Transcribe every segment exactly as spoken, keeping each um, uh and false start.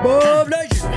Bob Nation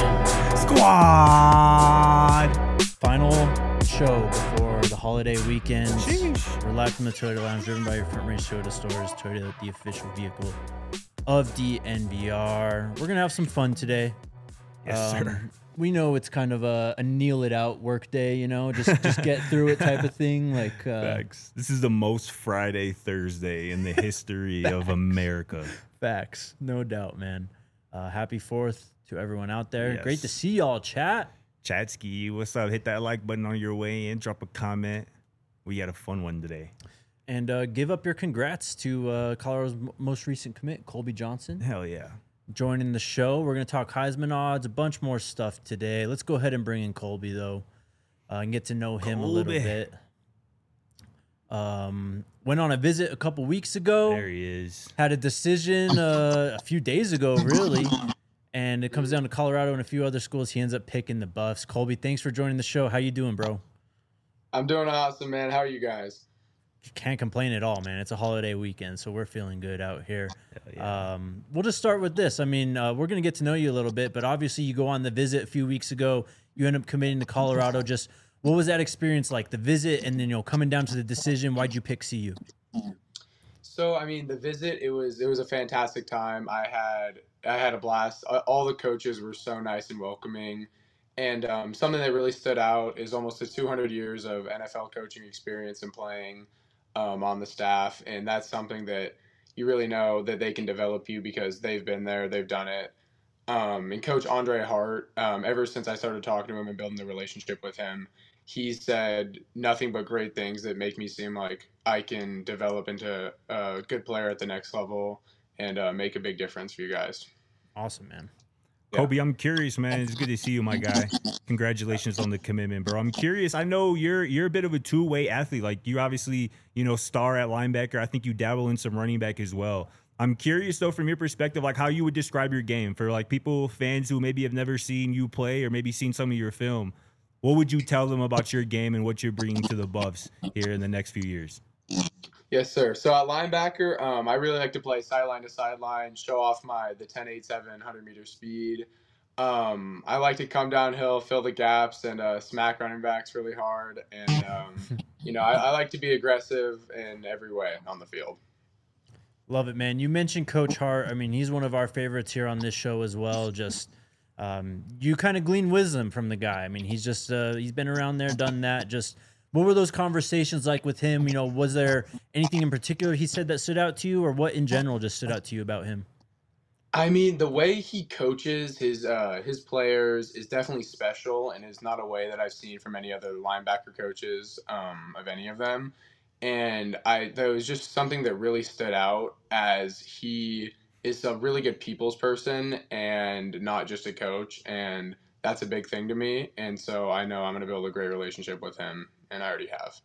Squad. Final show before the holiday weekend. Sheesh. We're live from the Toyota Lounge, driven by your front range Toyota stores. Toyota, the official vehicle of D N V R. We're gonna have some fun today. Yes, Um, sir. We know it's kind of a, a kneel it out work day, you know, just just get through it type of thing. Like uh, Facts. This is the most Friday Thursday in the history of America. facts, no doubt, man. Uh, happy Fourth to everyone out there. Yes. Great to see y'all, chat. Chatsky, what's up? Hit that like button on your way in. Drop a comment. We had a fun one today. And uh, give up your congrats to uh, Colorado's m- most recent commit, Colby Johnson, Hell yeah. joining the show. We're going to talk Heisman odds, a bunch more stuff today. Let's go ahead and bring in Colby, though, uh, and get to know him a little Colby. bit. Um, went on a visit a couple weeks ago. There he is. Had a decision uh, a few days ago, really. And it comes down to Colorado and a few other schools. He ends up picking the Buffs. Colby, thanks for joining the show. How you doing, bro? I'm doing awesome, man. How are you guys? Can't complain at all, man. It's a holiday weekend, so we're feeling good out here. Hell yeah. Um, we'll just start with this. I mean, uh, we're going to get to know you a little bit, but obviously you go on the visit a few weeks ago. You end up committing to Colorado. Just what was that experience like, the visit, and then, you know, coming down to the decision? Why'd you pick C U? So, I mean, the visit, it was it was a fantastic time. I had I had a blast. All the coaches were so nice and welcoming. And um, something that really stood out is almost the two hundred years of N F L coaching experience and playing um, on the staff. And that's something that you really know that they can develop you because they've been there, they've done it. Um, and Coach Andre Hart, um, ever since I started talking to him and building the relationship with him, he said nothing but great things that make me seem like I can develop into a good player at the next level and uh, make a big difference for you guys. Awesome, man. Yeah. Kobe, I'm curious, man. It's good to see you, my guy. Congratulations on the commitment, bro. I'm curious. I know you're you're a bit of a two-way athlete. Like, you obviously, you know, star at linebacker. I think you dabble in some running back as well. I'm curious, though, from your perspective, like how you would describe your game for like people, fans who maybe have never seen you play or maybe seen some of your film. What would you tell them about your game and what you're bringing to the Buffs here in the next few years? Yes, sir. So at linebacker, um, I really like to play sideline to sideline, show off my the ten eight seven one hundred meter speed. Um, I like to come downhill, fill the gaps, and uh, smack running backs really hard. And um, you know, I, I like to be aggressive in every way on the field. Love it, man. You mentioned Coach Hart. I mean, he's one of our favorites here on this show as well. Just um, you kind of glean wisdom from the guy. I mean, he's just uh, he's been around there, done that. Just what were those conversations like with him? You know, was there anything in particular he said that stood out to you, or what in general just stood out to you about him? I mean, the way he coaches his uh, his players is definitely special, and is not a way that I've seen from any other linebacker coaches um, of any of them. And I that was just something that really stood out, as he is a really good people's person and not just a coach, and that's a big thing to me. And so I know I'm going to build a great relationship with him, and I already have.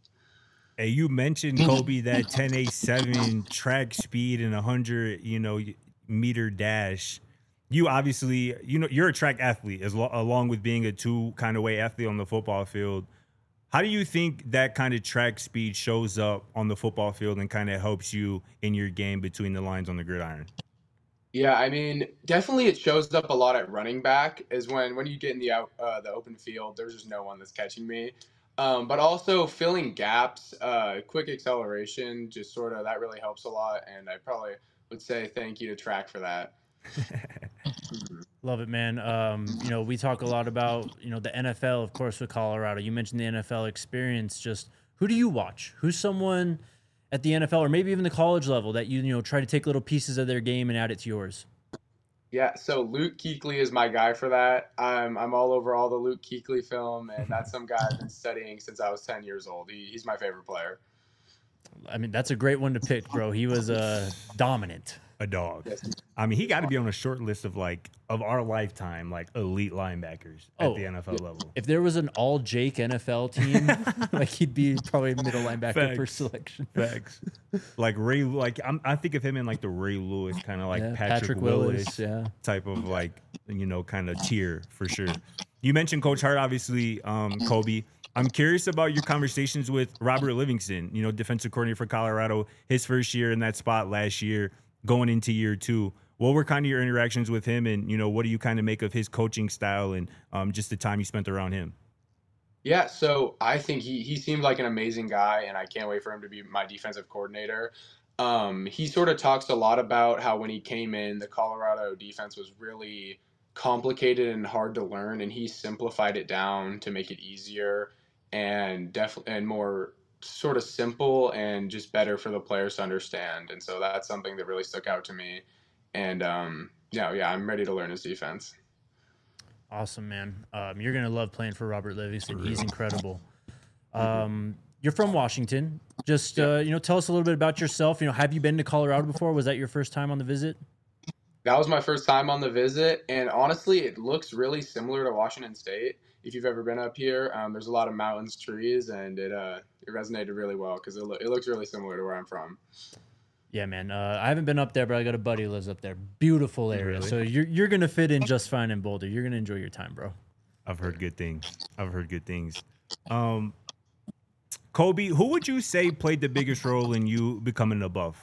Hey, you mentioned, Kobe, that ten eight seven track speed and one hundred, you know, meter dash. You obviously, you know, you're a track athlete as lo- along with being a two kind of way athlete on the football field. How do you think that kind of track speed shows up on the football field and kind of helps you in your game between the lines on the gridiron? Yeah, I mean, definitely it shows up a lot at running back, is when when you get in the out uh, the open field, there's just no one that's catching me. Um, but also filling gaps, uh, quick acceleration, just sort of that really helps a lot, and I probably would say thank you to track for that. Love it, man. Um, you know, we talk a lot about, you know, the N F L, of course, with Colorado. You mentioned the N F L experience. Just who do you watch? Who's someone at the N F L or maybe even the college level that you, you know, try to take little pieces of their game and add it to yours? Yeah, so Luke Kuechly is my guy for that. I'm I'm all over all the Luke Kuechly film, and that's some guy I've been studying since I was ten years old. He, he's my favorite player. I mean, that's a great one to pick, bro. He was uh, dominant. A dog. Yes. I mean, he got to be on a short list of like of our lifetime, like elite linebackers at Oh, the N F L level. If there was an all Jake N F L team, like he'd be probably middle linebacker Facts. for selection. Facts. Like Ray, like I'm, I think of him in like the Ray Lewis kind of like Yeah, Patrick, Patrick Willis, Willis, yeah. type of like, you know, kind of tier for sure. You mentioned Coach Hart, obviously, um, Kobe. I'm curious about your conversations with Robert Livingston, you know, defensive coordinator for Colorado, his first year in that spot last year, going into year two. what were kind of your interactions with him, and you know, what do you kind of make of his coaching style and um, just the time you spent around him? Yeah, so I think he he seemed like an amazing guy, and I can't wait for him to be my defensive coordinator. Um, he sort of talks a lot about how when he came in, the Colorado defense was really complicated and hard to learn, and he simplified it down to make it easier and def and more sort of simple and just better for the players to understand. And so that's something that really stuck out to me. And um, yeah, yeah, I'm ready to learn his defense. Awesome, man. Um, you're gonna love playing for Robert Livingston. He's incredible. Um, you're from Washington. Just uh, you know, tell us a little bit about yourself. You know, have you been to Colorado before? Was that your first time on the visit? That was my first time on the visit, and honestly, it looks really similar to Washington State. If you've ever been up here, um, there's a lot of mountains, trees, and it uh, it resonated really well because it, lo- it looks really similar to where I'm from. Yeah, man. Uh, I haven't been up there, but I got a buddy who lives up there. Beautiful area. Really? So you're you're gonna fit in just fine in Boulder. You're gonna enjoy your time, bro. I've heard good things. I've heard good things. Um, Kobe, who would you say played the biggest role in you becoming a Buff?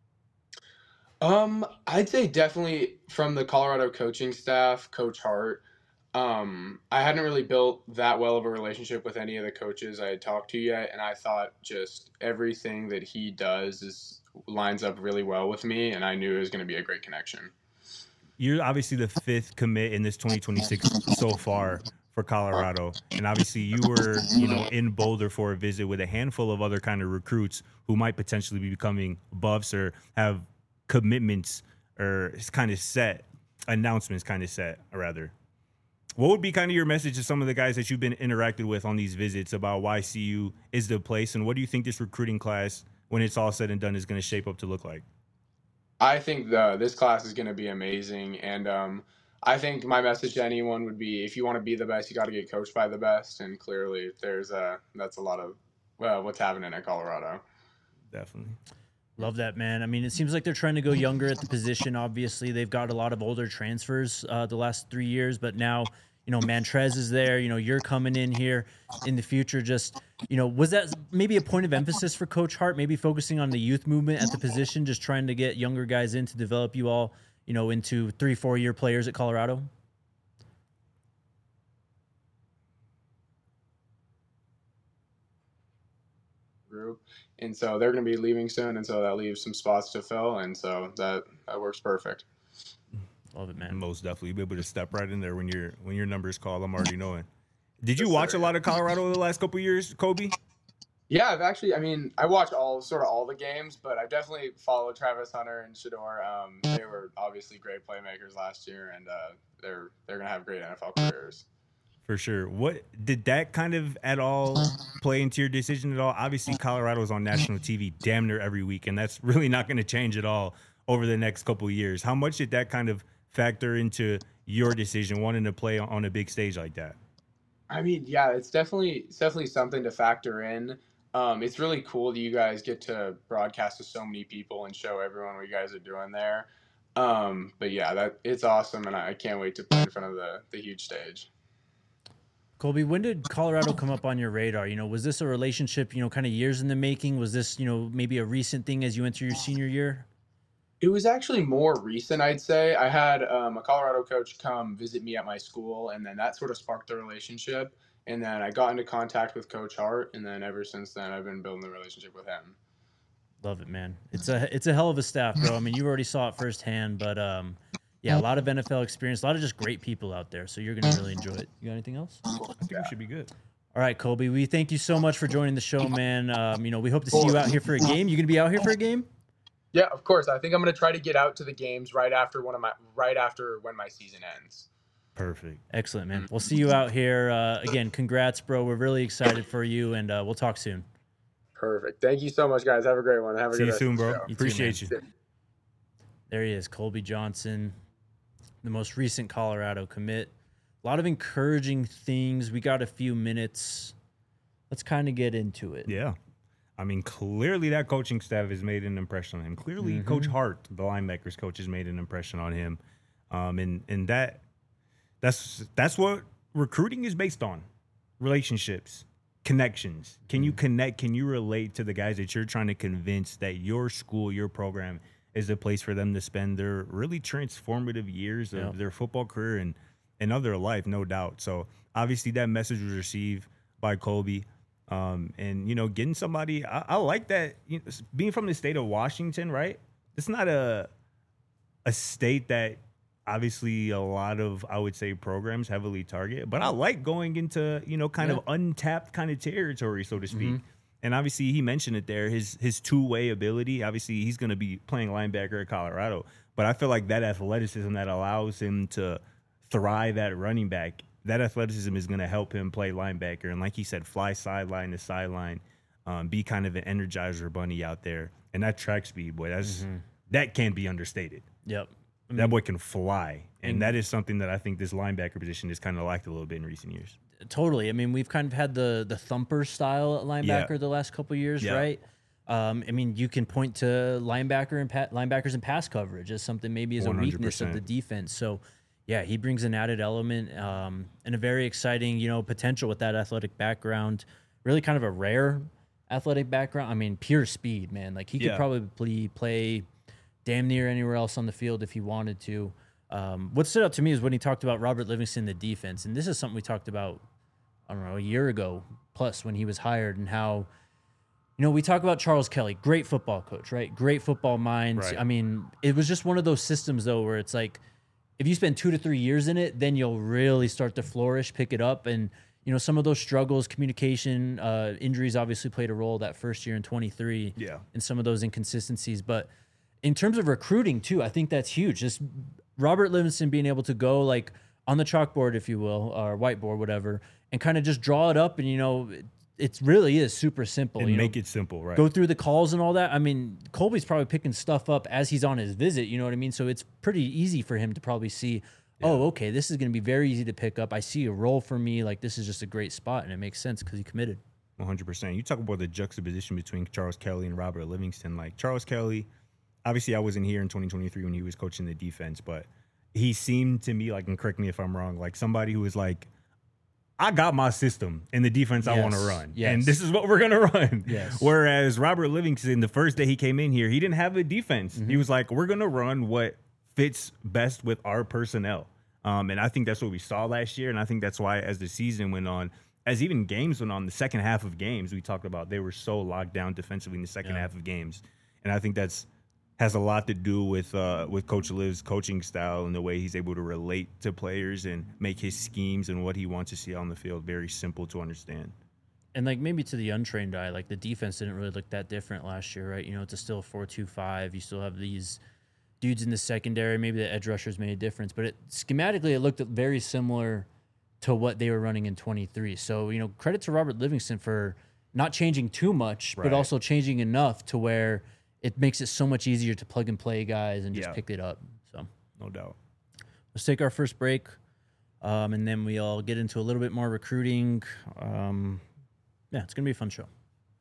Um, I'd say definitely from the Colorado coaching staff, Coach Hart. Um, I hadn't really built that well of a relationship with any of the coaches I had talked to yet, and I thought just everything that he does is lines up really well with me, and I knew it was going to be a great connection. You're obviously the fifth commit in this twenty twenty-six so far for Colorado, and obviously you were, you know, in Boulder for a visit with a handful of other kind of recruits who might potentially be becoming Buffs or have commitments or kind of set announcements, kind of set, or rather. What would be kind of your message to some of the guys that you've been interacted with on these visits about why C U is the place, and what do you think this recruiting class, when it's all said and done, is going to shape up to look like? I think the this class is going to be amazing, and um, I think my message to anyone would be: if you want to be the best, you got to get coached by the best. And clearly, there's a that's a lot of well, what's happening at Colorado. Definitely. Love that, man. I mean, it seems like they're trying to go younger at the position. Obviously, they've got a lot of older transfers uh, the last three years, but now, you know, Mantrez is there. You know, you're coming in here in the future. Just, you know, was that maybe a point of emphasis for Coach Hart, maybe focusing on the youth movement at the position, just trying to get younger guys in to develop you all, you know, into three, four-year players at Colorado? Group. And so they're going to be leaving soon, and so that leaves some spots to fill, and so that that works perfect. Love it, man. Most definitely, you'll be able to step right in there when your when your number's called. I'm already knowing. Did you Yes, watch sir. a lot of Colorado the last couple of years, Kobe? Yeah, I've actually, I mean, I watch all sort of all the games, but I definitely followed Travis Hunter and Shador. Um, they were obviously great playmakers last year, and uh, they're they're going to have great N F L careers. For sure. What did that kind of at all play into your decision at all? Obviously, Colorado's on national T V damn near every week, and that's really not going to change at all over the next couple of years. How much did that kind of factor into your decision wanting to play on a big stage like that? I mean, yeah, it's definitely it's definitely something to factor in. Um, it's really cool that you guys get to broadcast to so many people and show everyone what you guys are doing there. Um, but yeah, that it's awesome, and I can't wait to play in front of the the huge stage. Colby, when did Colorado come up on your radar? You know, was this a relationship, you know, kind of years in the making? Was this, you know, maybe a recent thing as you enter your senior year? It was actually more recent, I'd say. I had um, a Colorado coach come visit me at my school, and then that sort of sparked the relationship. And then I got into contact with Coach Hart, and then ever since then, I've been building the relationship with him. Love it, man. It's a it's a hell of a staff, bro. I mean, you already saw it firsthand, but um, yeah, a lot of N F L experience, a lot of just great people out there. So you're gonna really enjoy it. You got anything else? I think we should be good. All right, Colby. We thank you so much for joining the show, man. Um, you know, we hope to see you out here for a game. You gonna be out here for a game? Yeah, of course. I think I'm going to try to get out to the games right after one of my right after when my season ends. Perfect. Excellent, man. We'll see you out here. Uh, again, congrats, bro. We're really excited for you, and uh, we'll talk soon. Perfect. Thank you so much, guys. Have a great one. Have a See good you rest soon, of the bro. show. You too, Appreciate you. There he is, Colby Johnson, the most recent Colorado commit. A lot of encouraging things. We got a few minutes. Let's kind of get into it. Yeah. I mean, clearly that coaching staff has made an impression on him. Clearly, Mhm. Coach Hart, the linebackers coach, has made an impression on him. Um, and and that that's that's what recruiting is based on: relationships, connections. Can you connect? Can you relate to the guys that you're trying to convince that your school, your program is a place for them to spend their really transformative years of Yeah. their football career and, and of their life, no doubt. So obviously that message was received by Colby. Um, and, you know, getting somebody, I, I like that, you know, being from the state of Washington, right? It's not a a state that obviously a lot of, I would say, programs heavily target, but I like going into, you know, kind Yeah. of untapped kind of territory, so to speak. Mhm. And obviously he mentioned it there, his his two-way ability. Obviously he's going to be playing linebacker at Colorado, but I feel like that athleticism that allows him to thrive at running back, that athleticism is going to help him play linebacker. And like he said, fly sideline to sideline, um, be kind of an energizer bunny out there. And that track speed, boy, that's Mm-hmm. that can't be understated. Yep. I That mean, boy can fly. And And- that is something that I think this linebacker position has kind of lacked a little bit in recent years. Totally. I mean, we've kind of had the the thumper style at linebacker Yeah. the last couple of years, Yeah. right? Um, I mean, you can point to linebacker and pa- linebackers and pass coverage as something maybe as a weakness of the one hundred percent. defense. So, yeah, he brings an added element um, and a very exciting, you know, potential with that athletic background. Really, kind of a rare athletic background. I mean, pure speed, man. Like he could Yeah. probably play damn near anywhere else on the field if he wanted to. Um, what stood out to me is when he talked about Robert Livingston, the defense, and this is something we talked about, I don't know, a year ago plus when he was hired, and how, you know, we talk about Charles Kelly, great football coach, right? Great football mind. Right. I mean, it was just one of those systems though where it's like, if you spend two to three years in it, then you'll really start to flourish, pick it up, and you know, some of those struggles, communication, uh, injuries obviously played a role that first year in twenty-three, Yeah. and some of those inconsistencies, but in terms of recruiting too, I think that's huge. Just Robert Livingston being able to go like on the chalkboard, if you will, or whiteboard, whatever, and kind of just draw it up. And, you know, it, it really is super simple. And you make know, it simple, right? go through the calls and all that. I mean, Colby's probably picking stuff up as he's on his visit. You know what I mean? So it's pretty easy for him to probably see, oh, okay, this is going to be very easy to pick up. I see a role for me. Like, this is just a great spot. And it makes sense because he committed. one hundred percent. You talk about the juxtaposition between Charles Kelly and Robert Livingston. Like Charles Kelly, obviously I wasn't here in twenty twenty-three when he was coaching the defense, but he seemed to me like, and correct me if I'm wrong, like somebody who was like, I got my system and the defense I want to Yes. run. Yes. And this is what we're going to run. Yes. Whereas Robert Livingston, the first day he came in here, he didn't have a defense. Mm-hmm. He was like, we're going to run what fits best with our personnel. Um, and I think that's what we saw last year. And I think that's why as the season went on, as even games went on, the second half of games, we talked about they were so locked down defensively in the second Yeah. half of games. And I think that's has a lot to do with uh, with Coach Liv's coaching style and the way he's able to relate to players and make his schemes and what he wants to see on the field very simple to understand. And like maybe to the untrained eye, like the defense didn't really look that different last year, right? You know, it's still four two five. You still have these dudes in the secondary. Maybe the edge rushers made a difference, but it, schematically it looked very similar to what they were running in twenty-three. So, you know, credit to Robert Livingston for not changing too much, Right. but also changing enough to where it makes it so much easier to plug and play guys and just Yeah. pick it up. So No doubt. let's take our first break, um, and then we'll get into a little bit more recruiting. Um, yeah, it's going to be a fun show.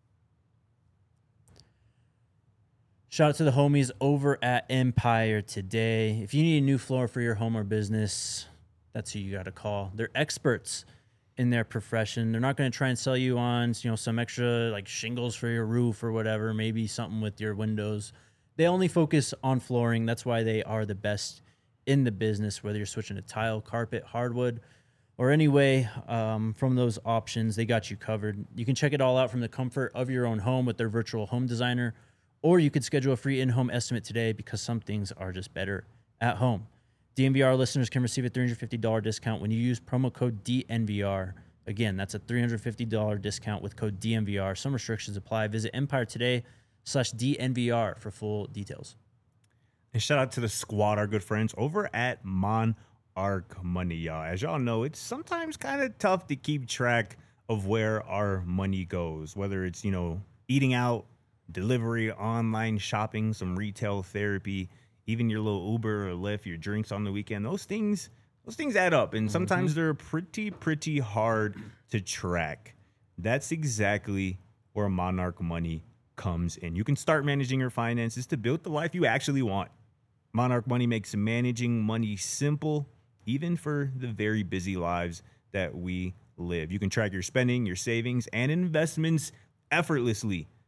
Shout out to the homies over at Empire today. If you need a new floor for your home or business, that's who you got to call. They're experts in their profession. They're not going to try and sell you on, you know, some extra like shingles for your roof or whatever, maybe something with your windows. They only focus on flooring. That's why they are the best in the business, whether you're switching to tile, carpet, hardwood, or anyway, um, from those options, they got you covered. You can check it all out from the comfort of your own home with their virtual home designer, or you could schedule a free in-home estimate today because some things are just better at home. D N V R listeners can receive a three hundred fifty dollars discount when you use promo code D N V R. Again, that's a three hundred fifty dollars discount with code D N V R. Some restrictions apply. Visit Empire today slash D N V R for full details. And shout out to the squad, our good friends over at Monarch Money, y'all. As y'all know, it's sometimes kind of tough to keep track of where our money goes, whether it's, you know, eating out, delivery, online shopping, some retail therapy, even your little Uber or Lyft, your drinks on the weekend. Those things, those things add up, and sometimes mm-hmm. they're pretty, pretty hard to track. That's exactly where Monarch Money comes in. You can start managing your finances to build the life you actually want. Monarch Money makes managing money simple, even for the very busy lives that we live. You can track your spending, your savings, and investments effortlessly.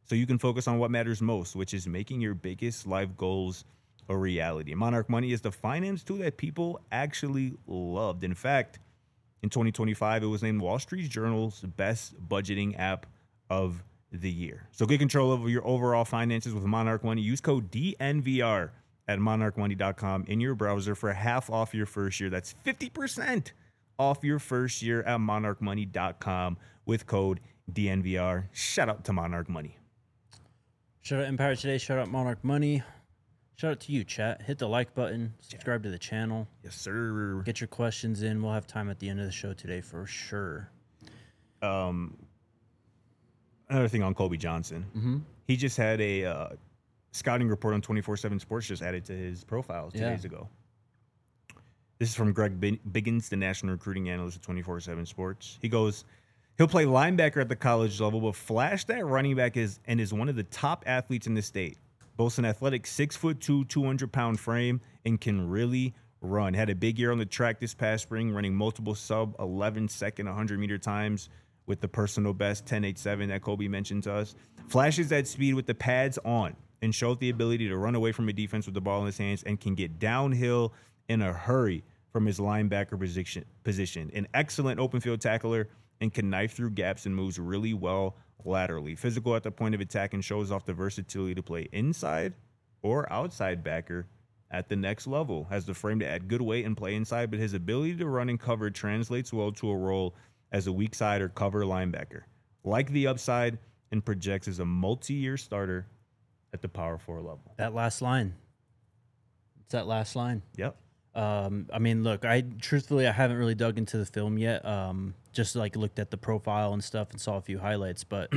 so you can focus on what matters most, which is making your biggest life goals a reality. Monarch Money is the finance tool that people actually loved. In fact, in twenty twenty-five, it was named Wall Street Journal's best budgeting app of the year. So get control over your overall finances with Monarch Money. Use code D N V R at monarch money dot com in your browser for half off your first year. That's fifty percent off your first year at monarch money dot com with code D N V R. Shout out to Monarch Money. Shout out Empire Today. Shout out Monarch Money. Shout out to you, chat. Hit the like button. Subscribe to the channel. Yes, sir. Get your questions in. We'll have time at the end of the show today for sure. Um, another thing on Kobe Johnson. Mm-hmm. He just had a uh, scouting report on twenty-four seven Sports just added to his profile two Yeah. days ago. This is from Greg Biggins, the national recruiting analyst at twenty-four seven Sports. He goes, he'll play linebacker at the college level, but flash that running back is and is one of the top athletes in the state. Boasts an athletic six foot two, two hundred pound frame, and can really run. Had a big year on the track this past spring, running multiple sub eleven second one hundred meter times with the personal best ten eight seven that Kobe mentioned to us. Flashes that speed with the pads on and showed the ability to run away from a defense with the ball in his hands and can get downhill in a hurry from his linebacker position. position. An excellent open field tackler and can knife through gaps and moves really well laterally. Physical at the point of attack and shows off the versatility to play inside or outside backer at the next level. Has the frame to add good weight and play inside, but his ability to run and cover translates well to a role as a weak side or cover linebacker. Like the upside and projects as a multi-year starter at the power four level. That last line. It's that last line. Yep. Um, I mean, look, I truthfully, I haven't really dug into the film yet. Um, just like looked at the profile and stuff and saw a few highlights, but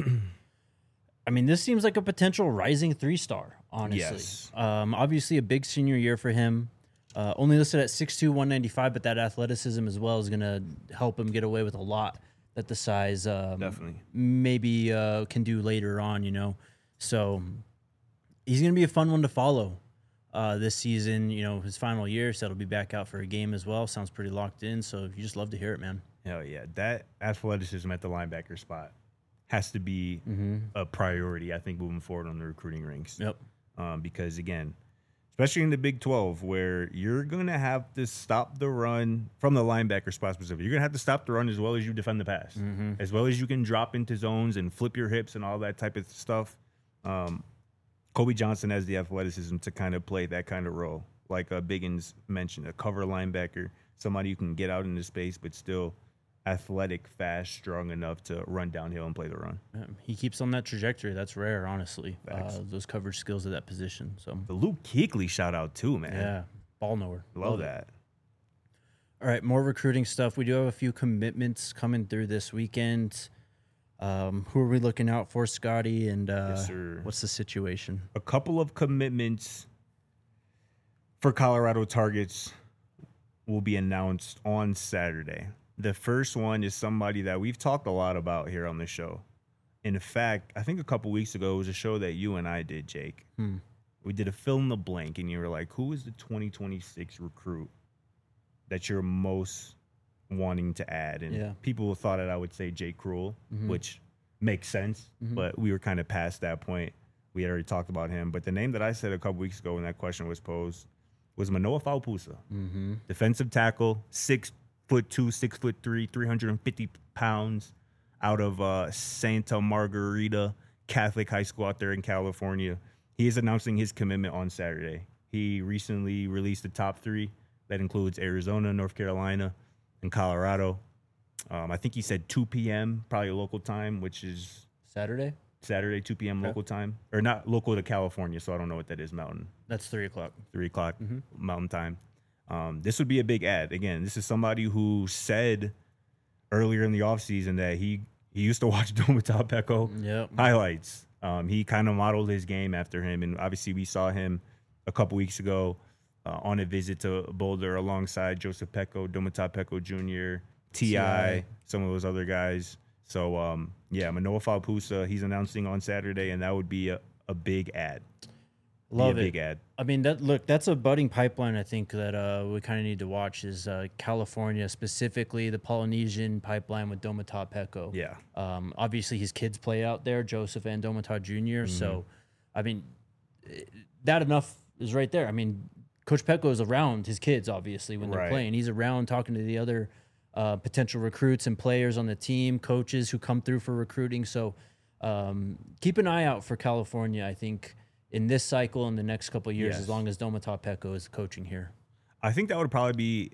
I mean, this seems like a potential rising three star, honestly. Yes. Um, obviously a big senior year for him. Uh, only listed at six two, one ninety-five, but that athleticism as well is going to help him get away with a lot that the size um, Definitely. maybe uh, can do later on, you know. So he's going to be a fun one to follow uh, this season. You know, his final year, so he'll be back out for a game as well. Sounds pretty locked in, so you just love to hear it, man. Hell yeah. That athleticism at the linebacker spot has to be Mm-hmm. a priority, I think, moving forward on the recruiting ranks. Yep. Um, because, again, especially in the Big twelve, where you're going to have to stop the run from the linebacker spot specifically. You're going to have to stop the run as well as you defend the pass, Mm-hmm. as well as you can drop into zones and flip your hips and all that type of stuff. Um, Kobe Johnson has the athleticism to kind of play that kind of role, like uh, Biggins mentioned, a cover linebacker, somebody who can get out into space but still athletic, fast, strong enough to run downhill and play the run. Yeah, he keeps on that trajectory. That's rare, honestly. Facts. Uh, those coverage skills at that position. So The Luke Kuechly shout out too, man. yeah, ball knower. Love it. that. All right, more recruiting stuff. We do have a few commitments coming through this weekend. Um, who are we looking out for, Scotty? And uh, Yes, sir. what's the situation? A couple of commitments for Colorado targets will be announced on Saturday. The first one is somebody that we've talked a lot about here on the show. In fact, I think a couple weeks ago, it was a show that you and I did, Jake. Hmm. We did a fill in the blank, and you were like, who is the twenty twenty-six recruit that you're most wanting to add? And Yeah. people thought that I would say Jake Cruel, Mhm. which makes sense, Mhm. but we were kind of past that point. We had already talked about him. But the name that I said a couple weeks ago when that question was posed was Manoa Faupusa. Mm-hmm. Defensive tackle, six foot two, six foot three, three hundred fifty pounds, out of uh, Santa Margarita Catholic High School out there in California. He is announcing his commitment on Saturday. He recently released the top three. That includes Arizona, North Carolina, and Colorado. Um, I think he said two p.m., probably local time, which is Saturday? Saturday, two p.m. Okay. local time. Or not local to California, so I don't know what that is, Mountain. That's three o'clock. three o'clock Mhm. Mountain Time. Um, this would be a big ad. Again, this is somebody who said earlier in the offseason that he, he used to watch Domata Peko Yep. highlights. Um, he kind of modeled his game after him. And obviously, we saw him a couple weeks ago uh, on a visit to Boulder alongside Joseph Peko, Domata Peko Junior, T I, some of those other guys. So, um, yeah, Manoa Faupusa, he's announcing on Saturday, and that would be a, a big ad. Love be a it. big ad. I mean, that look, that's a budding pipeline. I think that uh, we kind of need to watch is uh, California, specifically the Polynesian pipeline with Domata Peko. Yeah. Um, obviously, his kids play out there, Joseph and Domata Junior Mm-hmm. So, I mean, eh, that enough is right there. I mean, Coach Peko is around his kids, obviously, when they're Right. playing. He's around talking to the other uh, potential recruits and players on the team, coaches who come through for recruiting. So, um, keep an eye out for California, I think, in this cycle in the next couple of years, Yes. as long as Domata Peko is coaching here. I think that would probably be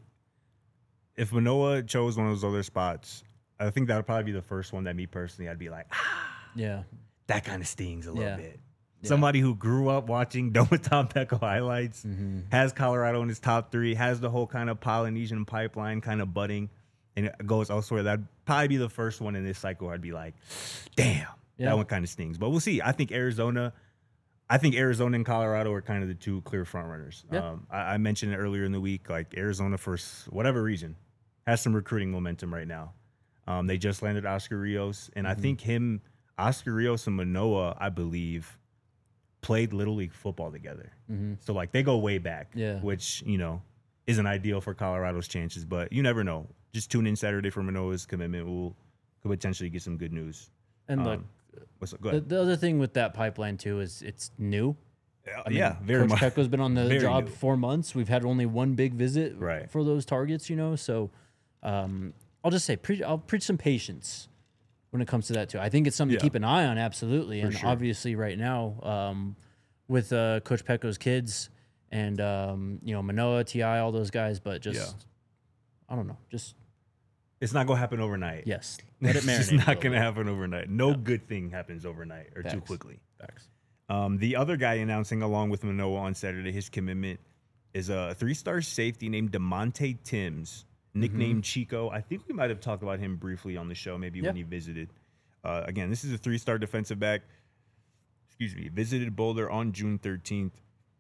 if Manoa chose one of those other spots. I think that would probably be the first one that me personally I'd be like, ah, Yeah. that kind of stings a little Yeah. bit. Yeah. Somebody who grew up watching Domata Peko highlights, Mm-hmm. has Colorado in his top three, has the whole kind of Polynesian pipeline kind of budding, and it goes elsewhere. That'd probably be the first one in this cycle. I'd be like, damn, Yeah. that one kind of stings. But we'll see. I think Arizona. I think Arizona and Colorado are kind of the two clear front runners. Yeah. Um, I, I mentioned it earlier in the week, like Arizona, for s- whatever reason, has some recruiting momentum right now. Um, they just landed Oscar Rios, and Mm-hmm. I think him, Oscar Rios and Manoa, I believe, played Little League football together. Mm-hmm. So, like, they go way back, Yeah. which, you know, isn't ideal for Colorado's chances, but you never know. Just tune in Saturday for Manoa's commitment. We'll could potentially get some good news. And look, Um, what's up? Go the, ahead. the other thing with that pipeline, too, is it's new. I mean, yeah, very Coach much. Peko's been on the very job new. four months. We've had only one big visit Right. for those targets, you know. So um, I'll just say, pre- I'll preach some patience when it comes to that too. I think it's something Yeah. to keep an eye on, absolutely. And sure. obviously, right now, um, with uh, Coach Peko's kids and um, you know Manoa, Ti, all those guys, but just Yeah. I don't know, just It's not gonna happen overnight. yes, let it marinate. It's a not little gonna bit. happen overnight. No good thing happens overnight or too Facts. quickly. Facts. Um, the other guy announcing along with Manoa on Saturday his commitment is a three-star safety named DeMonte Timms, nicknamed Chico. I think we might have talked about him briefly on the show, maybe when Yeah. he visited. Uh, again, this is a three-star defensive back. Excuse me. Visited Boulder on June thirteenth.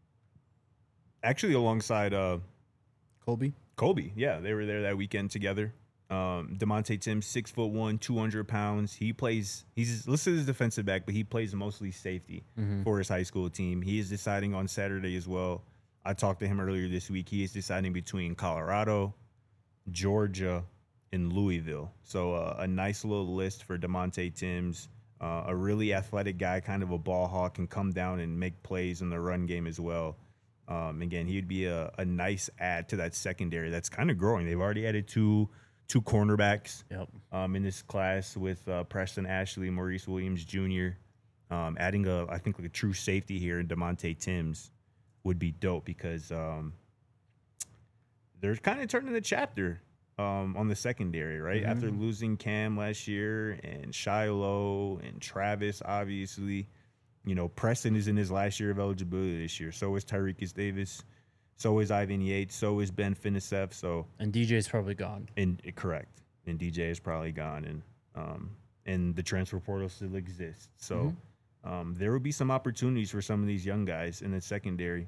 Actually, alongside uh, Colby. Colby. Yeah, they were there that weekend together. Um, DeMonte Timms, six foot one, two hundred pounds. He plays. He's listed as defensive back, but he plays mostly safety for his high school team. He is deciding on Saturday as well. I talked to him earlier this week. He is deciding between Colorado, Georgia, and Louisville. So uh, a nice little list for DeMonte Timms. Uh, a really athletic guy, kind of a ball hawk, can come down and make plays in the run game as well. Um, again, he'd be a, a nice add to that secondary that's kind of growing. They've already added two two cornerbacks Yep. um, in this class with uh, Preston Ashley, Maurice Williams Junior Um, adding a, I think, like a true safety here in DeMonte Timms would be dope because um, they're kind of turning the chapter um, on the secondary, right? Mm-hmm. After losing Cam last year and Shiloh and Travis, obviously, you know, Preston is in his last year of eligibility this year. So is Tyreekis Davis. So is Ivan Yates. So is Ben Finisef. So And D J's probably gone. and correct. And D J is probably gone, and um, and the transfer portal still exists. So um, there will be some opportunities for some of these young guys in the secondary,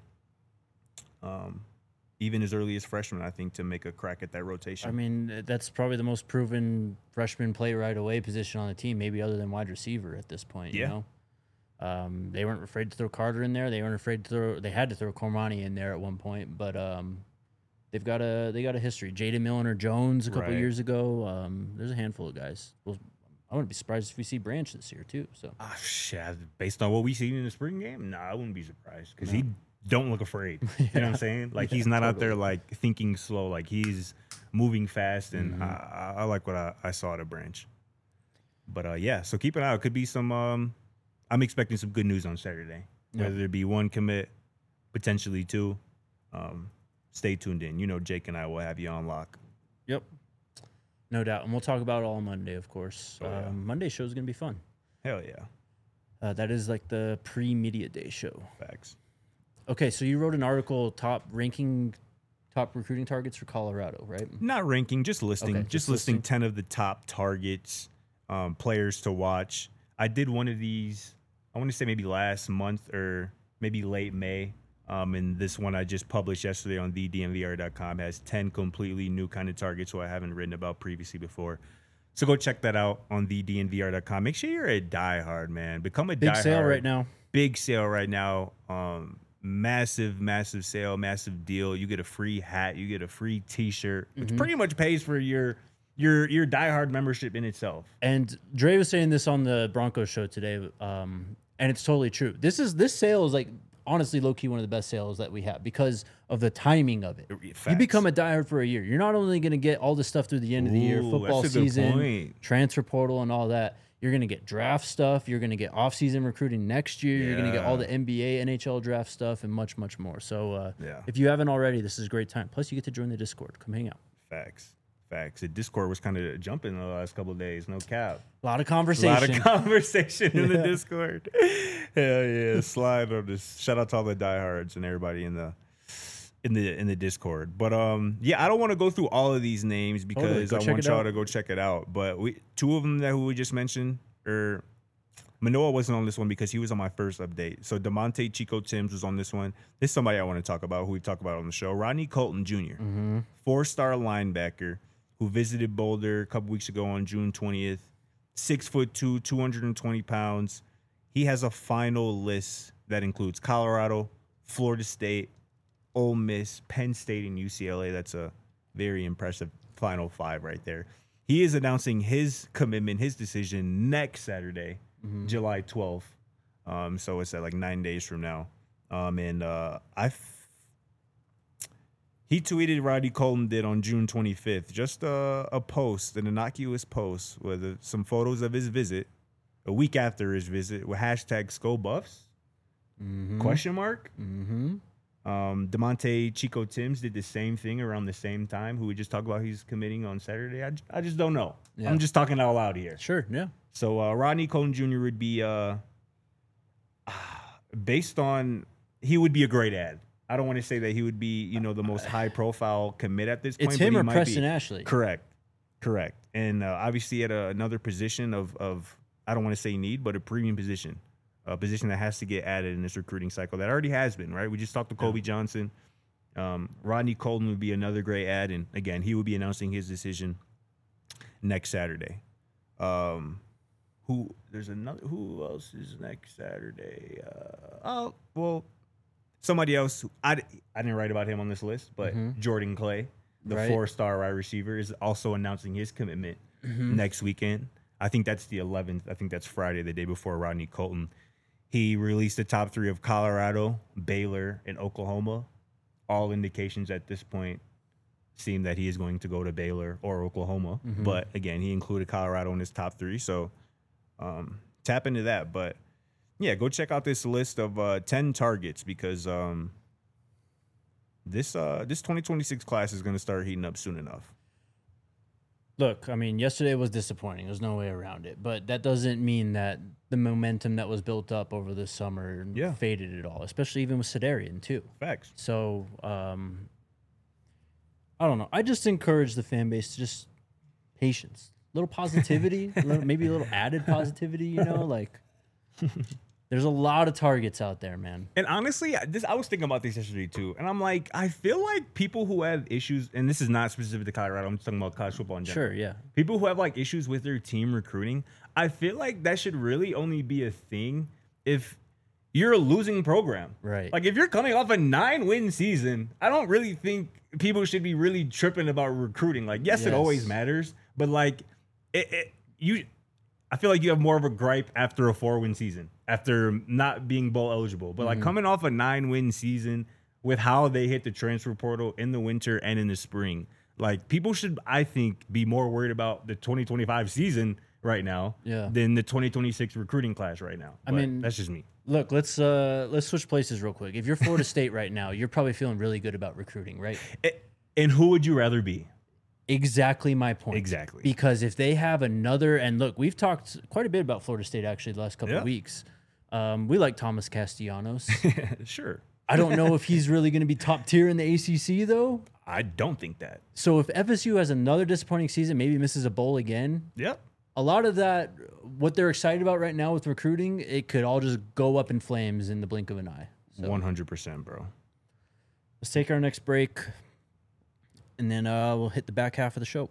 um, even as early as freshmen, I think, to make a crack at that rotation. I mean, that's probably the most proven freshman play right away position on the team, maybe other than wide receiver at this point. Yeah. You know, um, they weren't afraid to throw Carter in there. They weren't afraid to throw. They had to throw Cormani in there at one point, but um, they've got a they got a history. Jaden Milner Jones a couple Right. years ago. Um, there's a handful of guys. Well, I wouldn't be surprised if we see Branch this year too. So Ah, shit, based on what we seen in the spring game, nah, I wouldn't be surprised because he don't look afraid. You know what I'm saying? Like he's not out there like thinking slow. Like he's moving fast, and I, I, I like what I, I saw at a Branch. But uh, yeah, so keep an eye out. Could be some. Um, I'm expecting some good news on Saturday. Yeah. Whether it be one commit, potentially two. Um, stay tuned in. You know, Jake and I will have you on lock. yep, no doubt, and we'll talk about it all Monday, of course. Oh, yeah. um, Monday show is gonna be fun. Hell yeah, Uh, that is like the pre-media day show. facts. Okay, so you wrote an article top ranking top recruiting targets for Colorado, right? Not ranking, just listing. Okay, just, just listing listing. ten of the top targets, um, players to watch. I did one of these, I want to say maybe last month or maybe late May. Um, and this one I just published yesterday on the D N V R dot com has ten completely new kind of targets who I haven't written about previously before. So go check that out on the D N V R dot com. Make sure you're a diehard, man. Become a Big diehard. sale right now. Big sale right now. Um, massive, massive sale, massive deal. You get a free hat, you get a free T-shirt, which Mhm. pretty much pays for your your your diehard membership in itself. And Dre was saying this on the Broncos show today, um, and it's totally true. This is this sale is like honestly low key one of the best sales that we have because of the timing of it. You Facts. become a diehard for a year. You're not only going to get all this stuff through the end of the year, Ooh, football that's a good season, point. transfer portal, and all that. You're going to get draft stuff. You're going to get off-season recruiting next year. You're going to get all the N B A, N H L draft stuff, and much, much more. So uh, Yeah. if you haven't already, this is a great time. Plus, you get to join the Discord. Come hang out. Facts. Facts. The Discord was kind of jumping the last couple of days. No cap. A lot of A conversation. lot of conversation in the Yeah. Discord. Hell yeah. Slide on this. Shout out to all the diehards and everybody in the in the in the Discord. But um yeah, I don't want to go through all of these names because Go I check want it y'all out. to go check it out. But we two of them that who we just mentioned are Manoa wasn't on this one because he was on my first update. So DeMonte Chico Timms was on this one. This is somebody I want to talk about who we talked about on the show. Rodney Colton Junior Mm-hmm. Four-star linebacker who visited Boulder a couple weeks ago on June twentieth. Six foot two, two hundred twenty pounds. He has a final list that includes Colorado, Florida State, Ole Miss, Penn State, and U C L A. That's a very impressive final five right there. He is announcing his commitment, his decision next Saturday, July twelfth. Um, so it's at like nine days from now. Um, and uh, I, f- he tweeted Rodney Colton did on June twenty-fifth, just a, a post, an innocuous post with uh, some photos of his visit, a week after his visit with hashtag ScoBuffs, Mm-hmm. question mark. Mm-hmm. Um, DeMonte Chico Timms did the same thing around the same time, who we just talked about he's committing on Saturday. I, j- I just don't know. Yeah. I'm just talking out loud here. Sure, yeah. So uh, Rodney Colton Junior would be, uh, based on, he would be a great ad. I don't want to say that he would be, you know, the most high profile commit at this point. It's but him he or might Preston be. Ashley. Correct. Correct. And uh, obviously at a, another position of, of, I don't want to say need, but a premium position, a position that has to get added in this recruiting cycle that already has been, right? We just talked to Kobe Johnson. Um, Rodney Colton would be another great ad. And again, he would be announcing his decision next Saturday. Um, who, there's another, who else is next Saturday? Uh, oh, well, somebody else. Who, I, I didn't write about him on this list, but Mhm. Jordan Clay, the Right. four-star wide receiver, is also announcing his commitment Mhm. next weekend. I think that's the eleventh. I think that's Friday, the day before Rodney Colton. He released the top three of Colorado, Baylor, and Oklahoma. All indications at this point seem that he is going to go to Baylor or Oklahoma. Mhm. But again, he included Colorado in his top three. So um, tap into that. But yeah, go check out this list of uh, ten targets because um, this uh, this twenty twenty-six class is going to start heating up soon enough. Look, I mean, yesterday was disappointing. There's no way around it. But that doesn't mean that the momentum that was built up over this summer Yeah. faded at all, especially even with Sedarian, too. Facts. So, um, I don't know. I just encourage the fan base to just patience, little positivity, a little, maybe a little added positivity, you know? Like, there's a lot of targets out there, man. And honestly, I- this I was thinking about this yesterday too, and I'm like, I feel like people who have issues, and this is not specific to Colorado. I'm just talking about college football in general. Sure, yeah. People who have like issues with their team recruiting, I feel like that should really only be a thing if you're a losing program. Right. Like if you're coming off a nine-win season, I don't really think people should be really tripping about recruiting. Like, yes, it Yes. always matters, but like, it, it you. I feel like you have more of a gripe after a four-win season, after not being bowl eligible. But like coming off a nine-win season with how they hit the transfer portal in the winter and in the spring, like people should, I think, be more worried about the twenty twenty-five season right now Yeah. than the twenty twenty-six recruiting class right now. I But mean- that's just me. Look, let's uh let's switch places real quick. If you're Florida State right now, you're probably feeling really good about recruiting, right? A- And who would you rather be? Exactly my point. Exactly. Because if they have another, and look, we've talked quite a bit about Florida State actually the last couple Yeah. of weeks. Um, we like Thomas Castellanos. Sure. I don't know if he's really going to be top tier in the A C C though. I don't think that. So if F S U has another disappointing season, maybe misses a bowl again, Yep. a lot of that, what they're excited about right now with recruiting, it could all just go up in flames in the blink of an eye. So one hundred percent, bro. let's take our next break, and then uh, we'll hit the back half of the show.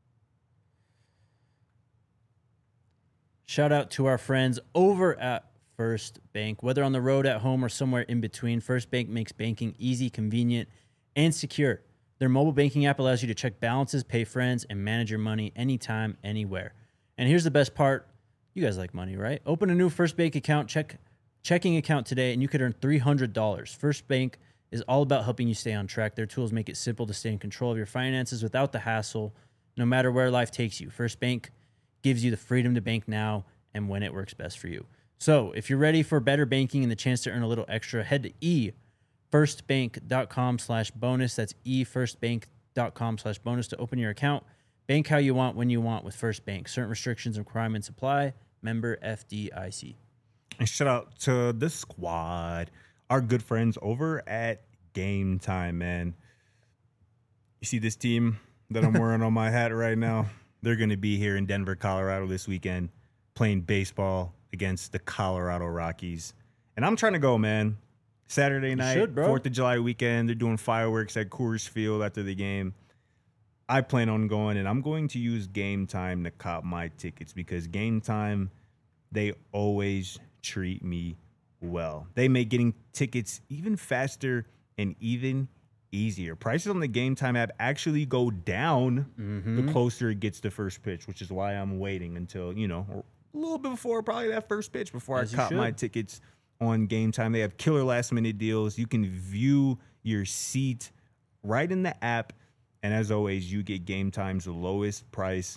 Shout out to our friends over at First Bank. Whether on the road, at home, or somewhere in between, First Bank makes banking easy, convenient, and secure. Their mobile banking app allows you to check balances, pay friends, and manage your money anytime, anywhere. And here's the best part. You guys like money, right? Open a new First Bank account, check checking account today, and you could earn three hundred dollars. First Bank is all about helping you stay on track. Their tools make it simple to stay in control of your finances without the hassle, no matter where life takes you. First Bank gives you the freedom to bank now and when it works best for you. So if you're ready for better banking and the chance to earn a little extra, head to efirstbank.com slash bonus. That's efirstbank.com slash bonus to open your account. Bank how you want, when you want with First Bank. Certain restrictions and requirements apply. Member F D I C. And shout out to the squad, our good friends over at Game Time, man. You see this team that I'm wearing on my hat right now? They're going to be here in Denver, Colorado this weekend playing baseball against the Colorado Rockies. And I'm trying to go, man. Saturday night, should, bro. fourth of July weekend. They're doing fireworks at Coors Field after the game. I plan on going, and I'm going to use Game Time to cop my tickets because Game Time, they always treat me well. They make getting tickets even faster and even easier. Prices on the Game Time app actually go down Mm-hmm. the closer it gets to first pitch, which is why I'm waiting until, you know, a little bit before probably that first pitch before As I you cop my should. tickets on Game Time. They have killer last minute deals. You can view your seat right in the app. And as always, you get Game Time's lowest price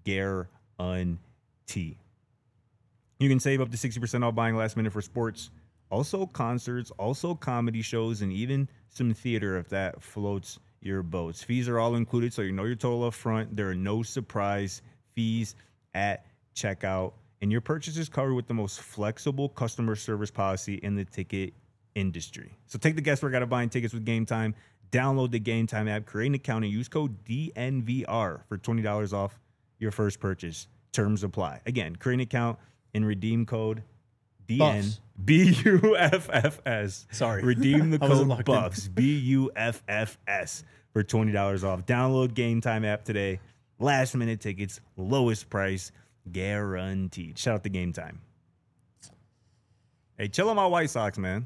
guarantee. You can save up to sixty percent off buying last minute for sports, also concerts, also comedy shows, and even some theater if that floats your boats. Fees are all included, so you know your total up front. There are no surprise fees at checkout, and your purchase is covered with the most flexible customer service policy in the ticket industry. So take the guesswork out of buying tickets with Game Time. Download the Game Time app, create an account, and use code D N V R for twenty dollars off your first purchase. Terms apply. Again, create an account and redeem code D N B U F F S. Sorry. Redeem the I wasn't code locked in. Buffs, B U F F S, for twenty dollars off. Download Game Time app today. Last minute tickets, lowest price, guaranteed. Shout out to Game Time. Hey, chill on my White Sox, man.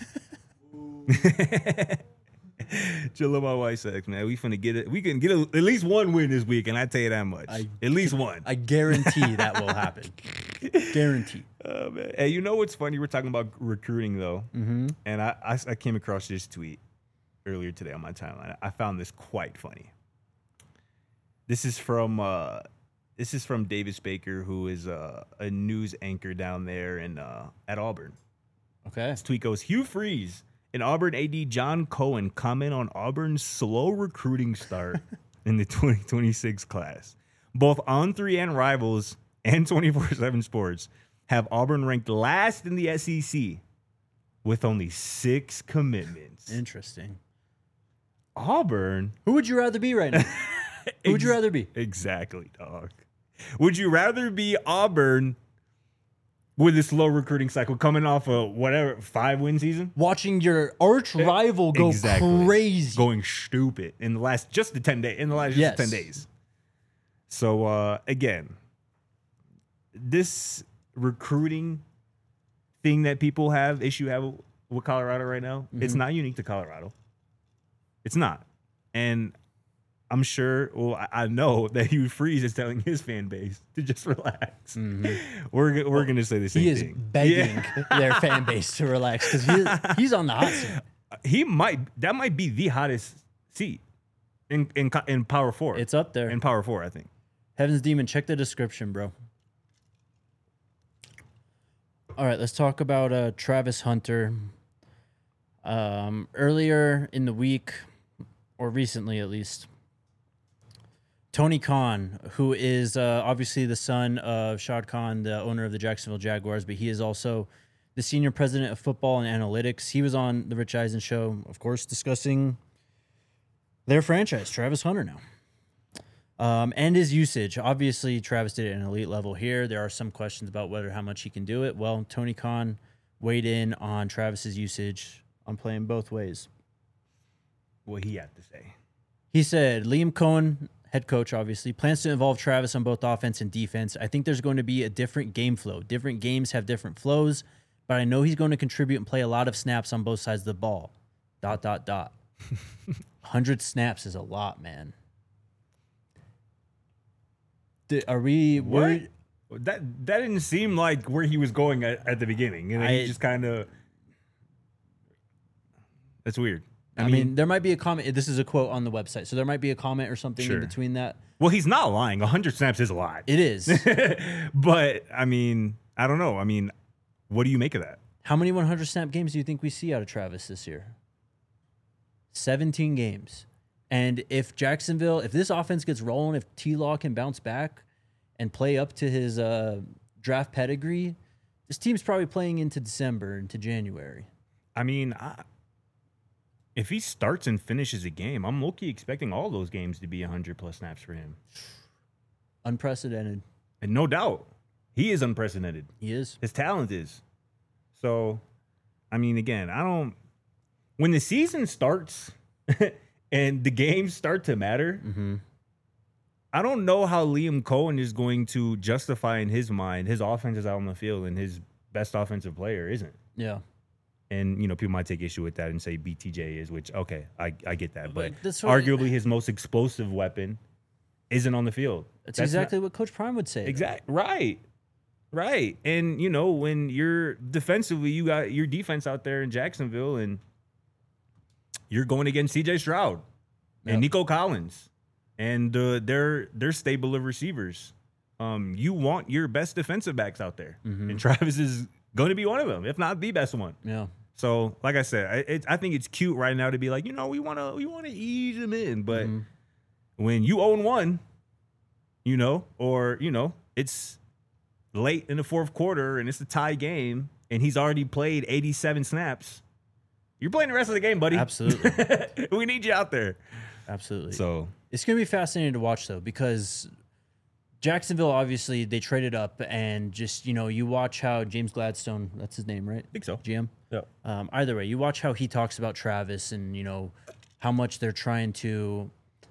Chill on my White Sox, man. We finna get it. We can get a, at least one win this week, and I tell you that much. I- at least one. I guarantee that will happen. Guarantee. Oh, man. Hey, you know what's funny? We're talking about recruiting, though. Mm-hmm. And I, I, I came across this tweet earlier today on my timeline. I found this quite funny. This is from uh, this is from Davis Baker, who is uh, a news anchor down there in uh, at Auburn. Okay. This tweet goes: Hugh Freeze and Auburn A D John Cohen comment on Auburn's slow recruiting start in the twenty twenty-six class. Both On three and Rivals and twenty-four seven Sports have Auburn ranked last in the S E C with only six commitments. Interesting. Auburn? Who would you rather be right now? Who would you Ex- rather be? Exactly, dog. Would you rather be Auburn with a slow recruiting cycle coming off a whatever five win season? Watching your arch rival go Exactly. crazy. Going stupid in the last just the ten days in the last just Yes. ten days. So uh again, this recruiting thing that people have issue have with Colorado right now, it's Mhm. not unique to Colorado. It's not. And I'm sure, well, I, I know that Hugh Freeze is telling his fan base to just relax. Mhm. We're g- we're gonna say the same He is thing. begging their fan base to relax because he, he's on the hot seat. He might that might be the hottest seat in in co- in Power Four. It's up there. in Power Four, I think. Heaven's Demon, check the description, bro. All right, let's talk about uh, Travis Hunter. Um, earlier in the week, or recently at least, Tony Khan, who is uh, obviously the son of Shad Khan, the owner of the Jacksonville Jaguars, but he is also the senior president of football and analytics. He was on the Rich Eisen show, of course, discussing their franchise, Travis Hunter now. Um, and his usage. Obviously, Travis did it at an elite level here. There are some questions about whether how much he can do it. Well, Tony Khan weighed in on Travis's usage on playing both ways. What he had to say. He said, Liam Cohen, head coach, obviously, plans to involve Travis on both offense and defense. I think there's going to be a different game flow. Different games have different flows. but I know he's going to contribute and play a lot of snaps on both sides of the ball. Dot, dot, dot. one hundred snaps is a lot, man. D- Are we What? worried? That that didn't seem like where he was going at, at the beginning. And then I- he just kind of. That's weird. I, mean, there might be a comment. This is a quote on the website, so there might be a comment or something Sure. in between that. well, he's not lying. one hundred snaps is a lot. It is. But, I mean, I don't know. I mean, what do you make of that? How many one hundred snap games do you think we see out of Travis this year? seventeen games. And if Jacksonville, if this offense gets rolling, if T-Law can bounce back and play up to his uh, draft pedigree, this team's probably playing into December, into January. I mean, I, if he starts and finishes a game, I'm low-key expecting all those games to be one hundred plus snaps for him. Unprecedented. And no doubt, he is unprecedented. He is. His talent is. So, I mean, again, I don't. When the season starts and the games start to matter, Mm-hmm. I don't know how Liam Cohen is going to justify in his mind his offense is out on the field and his best offensive player isn't. Yeah. And, you know, people might take issue with that and say B T J is, which, okay, I, I get that. But But that's what- arguably his most explosive weapon isn't on the field. That's, That's not- exactly what Coach Prime would say. Exact right. Right. And you know, when you're defensively, you got your defense out there in Jacksonville and you're going against C J Stroud Yep. and Nico Collins and uh, their their stable of receivers. Um, you want your best defensive backs out there. Mhm. And Travis is going to be one of them, if not the best one. Yeah. So, like I said, I, it, I think it's cute right now to be like, you know, we want to we want to ease him in, but Mhm. when you own one, you know, or you know, it's late in the fourth quarter and it's a tie game and he's already played eighty-seven snaps. You're playing the rest of the game, buddy. Absolutely. We need you out there. Absolutely. So, It's going to be fascinating to watch, though, because Jacksonville, obviously, they traded up, and just, you know, you watch how James Gladstone, that's his name, right? I think so. G M? Yeah. Um, either way, you watch how he talks about Travis and, you know, how much they're trying to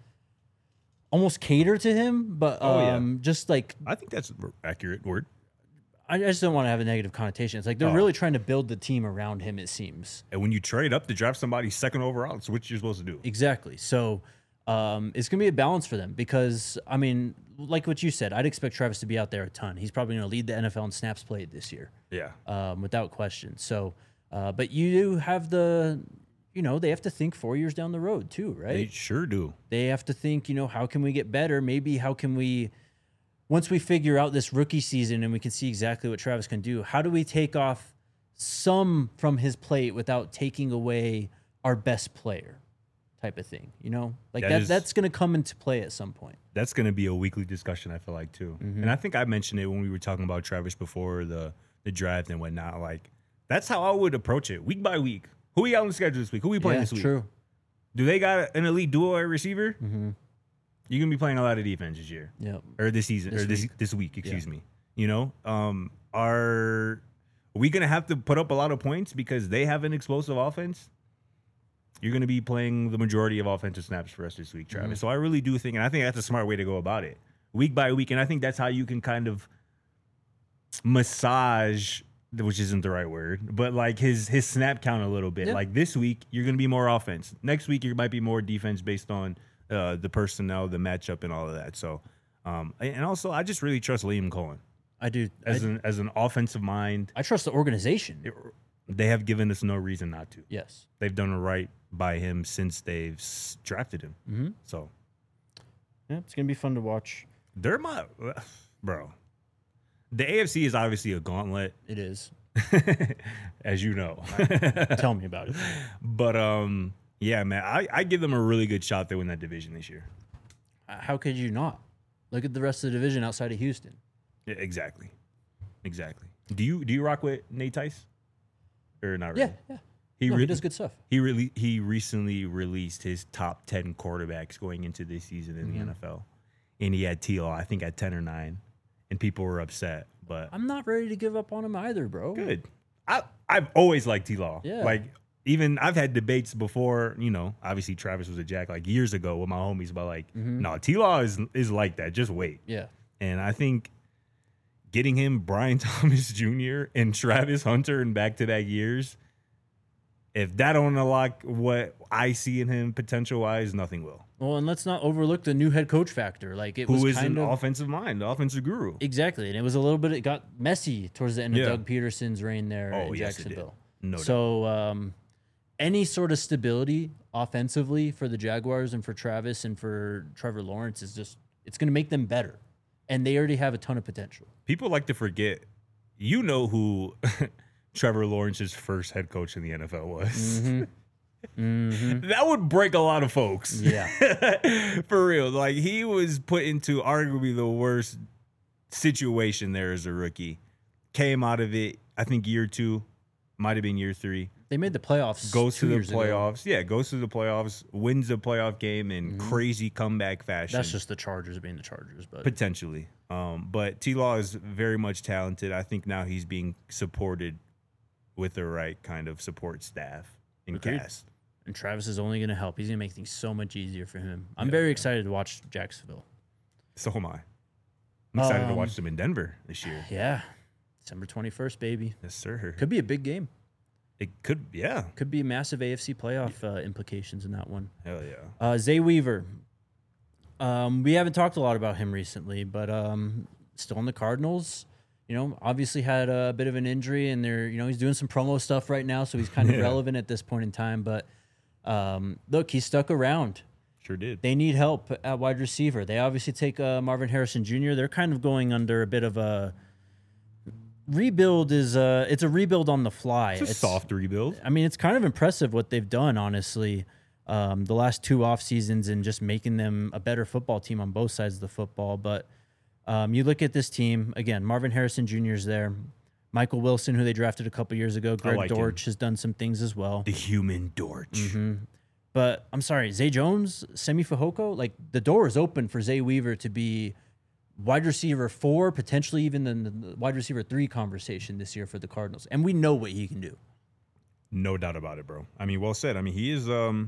almost cater to him, but Oh, yeah. um, just like, I think that's an accurate word. I just don't want to have a negative connotation. It's like they're Oh. really trying to build the team around him, it seems. And when you trade up to draft somebody second overall, it's what you're supposed to do. Exactly. So um, it's going to be a balance for them because, I mean, like what you said, I'd expect Travis to be out there a ton. He's probably going to lead the N F L in snaps played this year, Yeah. um, without question. So, uh, but you do have the, you know, they have to think four years down the road too, right? They sure do. They have to think, you know, how can we get better? Maybe how can we, once we figure out this rookie season and we can see exactly what Travis can do, how do we take off some from his plate without taking away our best player type of thing, you know? Like That that, is- that's going to come into play at some point. That's going to be a weekly discussion, I feel like, too. Mm-hmm. And I think I mentioned it when we were talking about Travis before the, the draft and whatnot. Like, that's how I would approach it, week by week. Who we got on the schedule this week? Who we playing Yeah, this week? true. Do they got an elite duo at receiver? Mm-hmm. You're going to be playing a lot of defense this year. Yeah. Or this season. This or this week. this week, excuse me. You know? Um, are, are we going to have to put up a lot of points because they have an explosive offense? You're going to be playing the majority of offensive snaps for us this week, Travis. Mm-hmm. So I really do think, and I think that's a smart way to go about it, week by week. And I think that's how you can kind of massage, which isn't the right word, but like his his snap count a little bit. Yeah. Like this week, you're going to be more offense. Next week, you might be more defense based on uh, the personnel, the matchup, and all of that. So, um, and also, I just really trust Liam Cohen I do. I, as an as an offensive mind. I trust the organization. It- they have given us no reason not to. Yes. They've done right by him since they've s- drafted him. Mm-hmm. So Yeah, it's going to be fun to watch. they're my bro. The A F C is obviously a gauntlet, It is. as you know. Tell me about it. But um, yeah, man, I, I give them a really good shot to win that division this year. Uh, How could you not? Look at the rest of the division outside of Houston. Yeah, exactly, exactly. Do you do you rock with Nate Tice or not? Really? Yeah, yeah. he No, re- he does good stuff. He really he recently released his top ten quarterbacks going into this season in Mm-hmm. the N F L, and he had T Law, I think, at ten or nine, and people were upset. But I'm not ready to give up on him either, bro. good. I I've always liked T Law. Yeah. Like even I've had debates before. You know, obviously Travis was a jack like years ago with my homies about like, Mhm. no, T Law is is like that. Just wait. Yeah. And I think getting him Brian Thomas Junior and Travis Hunter in back-to-back years, if that don't unlock what I see in him potential-wise, nothing will. Well, and let's not overlook the new head coach factor. Like it Who was is kind an of offensive mind, the offensive guru. exactly, and it was a little bit. It got messy towards the end of Yeah. Doug Peterson's reign there Oh, in yes, it did. Jacksonville. No doubt. So, um, any sort of stability offensively for the Jaguars and for Travis and for Trevor Lawrence is just it's going to make them better, and they already have a ton of potential. People like to forget, you know who Trevor Lawrence's first head coach in the N F L was. Mm-hmm. Mm-hmm. That would break a lot of folks. Yeah. For real. Like, he was put into arguably the worst situation there as a rookie. Came out of it, I think year two, might have been year three. They made the playoffs. Goes two to the years ago. playoffs. Yeah, goes to the playoffs, wins the playoff game in crazy comeback fashion. That's just the Chargers being the Chargers, but Potentially. Um, but T-Law is very much talented. I think now he's being supported with the right kind of support staff and Agreed. cast. and Travis is only going to help. He's going to make things so much easier for him. I'm very excited to watch Jacksonville. So am I. I'm excited to Um, watch them in Denver this year. Yeah, December twenty-first, baby. Yes, sir. Could be a big game. It could, yeah. Could be massive A F C playoff uh, implications in that one. Hell yeah. Uh, Zay Weaver. Um, we haven't talked a lot about him recently, but um, still in the Cardinals. You know, obviously had a bit of an injury, and they're you know he's doing some promo stuff right now, so he's kind of Yeah. relevant at this point in time. But um, look, he stuck around. Sure did. They need help at wide receiver. They obviously take uh, Marvin Harrison Junior They're kind of going under a bit of a rebuild. Is uh, it's a rebuild on the fly. It's a soft rebuild. I mean, it's kind of impressive what they've done, honestly, um, the last two off seasons and just making them a better football team on both sides of the football. But um, you look at this team again. Marvin Harrison Junior is there. Michael Wilson, who they drafted a couple years ago. Greg like him. Dortch has done some things as well. The human Dortch. Mm-hmm. But I'm sorry, Zay Jones, Semi Fehoko, like the door is open for Zay Weaver to be wide receiver four, potentially even in the wide receiver three conversation this year for the Cardinals. And we know what he can do. No doubt about it, bro. I mean, well said. I mean, he is. Um,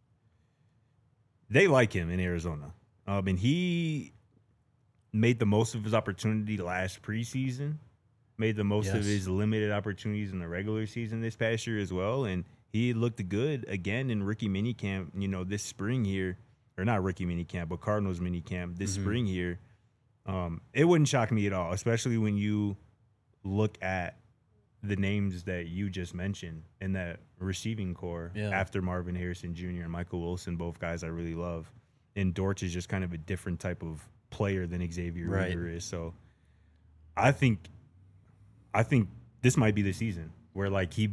they like him in Arizona. Um, and he made the most of his opportunity last preseason. Made the most of Yes. his limited opportunities in the regular season this past year as well. And he looked good again in rookie minicamp, you know, this spring here. Or not rookie minicamp, but Cardinals minicamp this Mm-hmm. spring here. Um, it wouldn't shock me at all, especially when you look at the names that you just mentioned in that receiving core Yeah. after Marvin Harrison Junior and Michael Wilson, both guys I really love. And Dortch is just kind of a different type of player than Xavier Right. Weaver is. So I think I think this might be the season where like he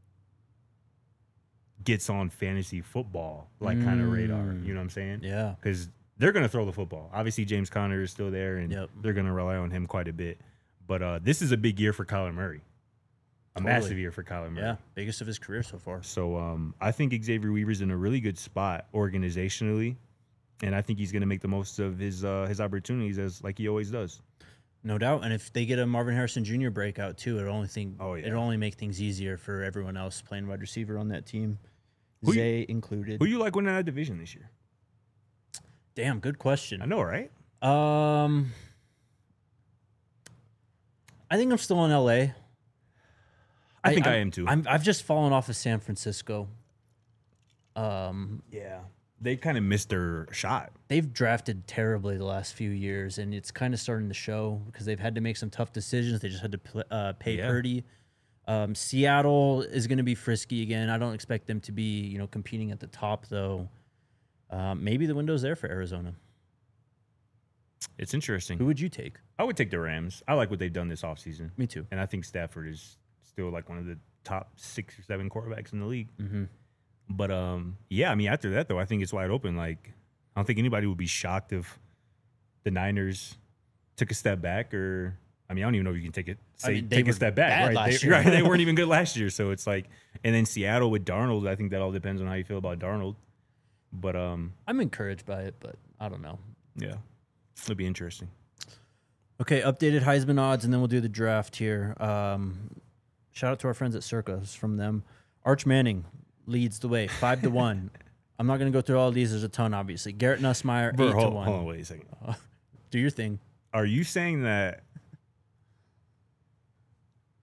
gets on fantasy football like kind of radar. Mm. You know what I'm saying? Yeah. Because they're going to throw the football. Obviously, James Conner is still there, and Yep. they're going to rely on him quite a bit. But uh, this is a big year for Kyler Murray. A Totally. massive year for Kyler Murray. Yeah. Biggest of his career so far. So um, I think Xavier Weaver's in a really good spot organizationally, and I think he's going to make the most of his uh, his opportunities as like he always does. No doubt. And if they get a Marvin Harrison Junior breakout too, it'll only think Oh, yeah. it'll only make things easier for everyone else playing wide receiver on that team. Who you- Zay included. Who you like winning that division this year? Damn, good I question. know, right? Um I think I'm still in L A. I, think I, I'm- am too. I'm, I've just fallen off of San Francisco. Um, yeah, they kind of missed their shot. they've drafted terribly the last few years, and it's kind of starting to show because they've had to make some tough decisions. They just had to pl- uh, pay Yeah. Purdy. Um, Seattle is going to be frisky again. I don't expect them to be, you know, competing at the top though. Um, maybe the window's there for Arizona. It's interesting. Who would you take? I would take the Rams. I like what they've done this offseason. Me too. And I think Stafford is still like one of the top six or seven quarterbacks in the league. Mm-hmm. But um, yeah, I mean, after that though, I think it's wide open. Like, I don't think anybody would be shocked if the Niners took a step back, or I mean, I don't even know if you can take it. I Say mean, they take were a step back, bad right? last They, year. right? They weren't even good last year, so it's like, and then Seattle with Darnold. I think that all depends on how you feel about Darnold. But um, I'm encouraged by it, but I don't know. yeah, it'll be interesting. Okay, updated Heisman odds, and then we'll do the draft here. Um, shout out to our friends at Circa. It's from them. Arch Manning leads the way, five to one. I'm not going to go through all of these. There's a ton, obviously. Garrett Nussmeyer, Bro, eight hold, to one. hold on, wait a second. Do your thing. Are you saying that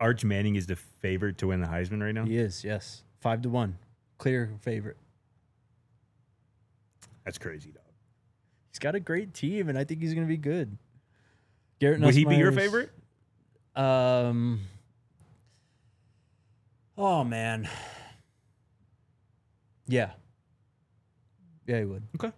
Arch Manning is the favorite to win the Heisman right now? He is, yes. Five to one. Clear favorite. That's crazy, dog. He's got a great team, and I think he's going to be good. Garrett Would he be your Nussmeier's- favorite? Um. Oh, man. Yeah. Yeah, he would. Okay.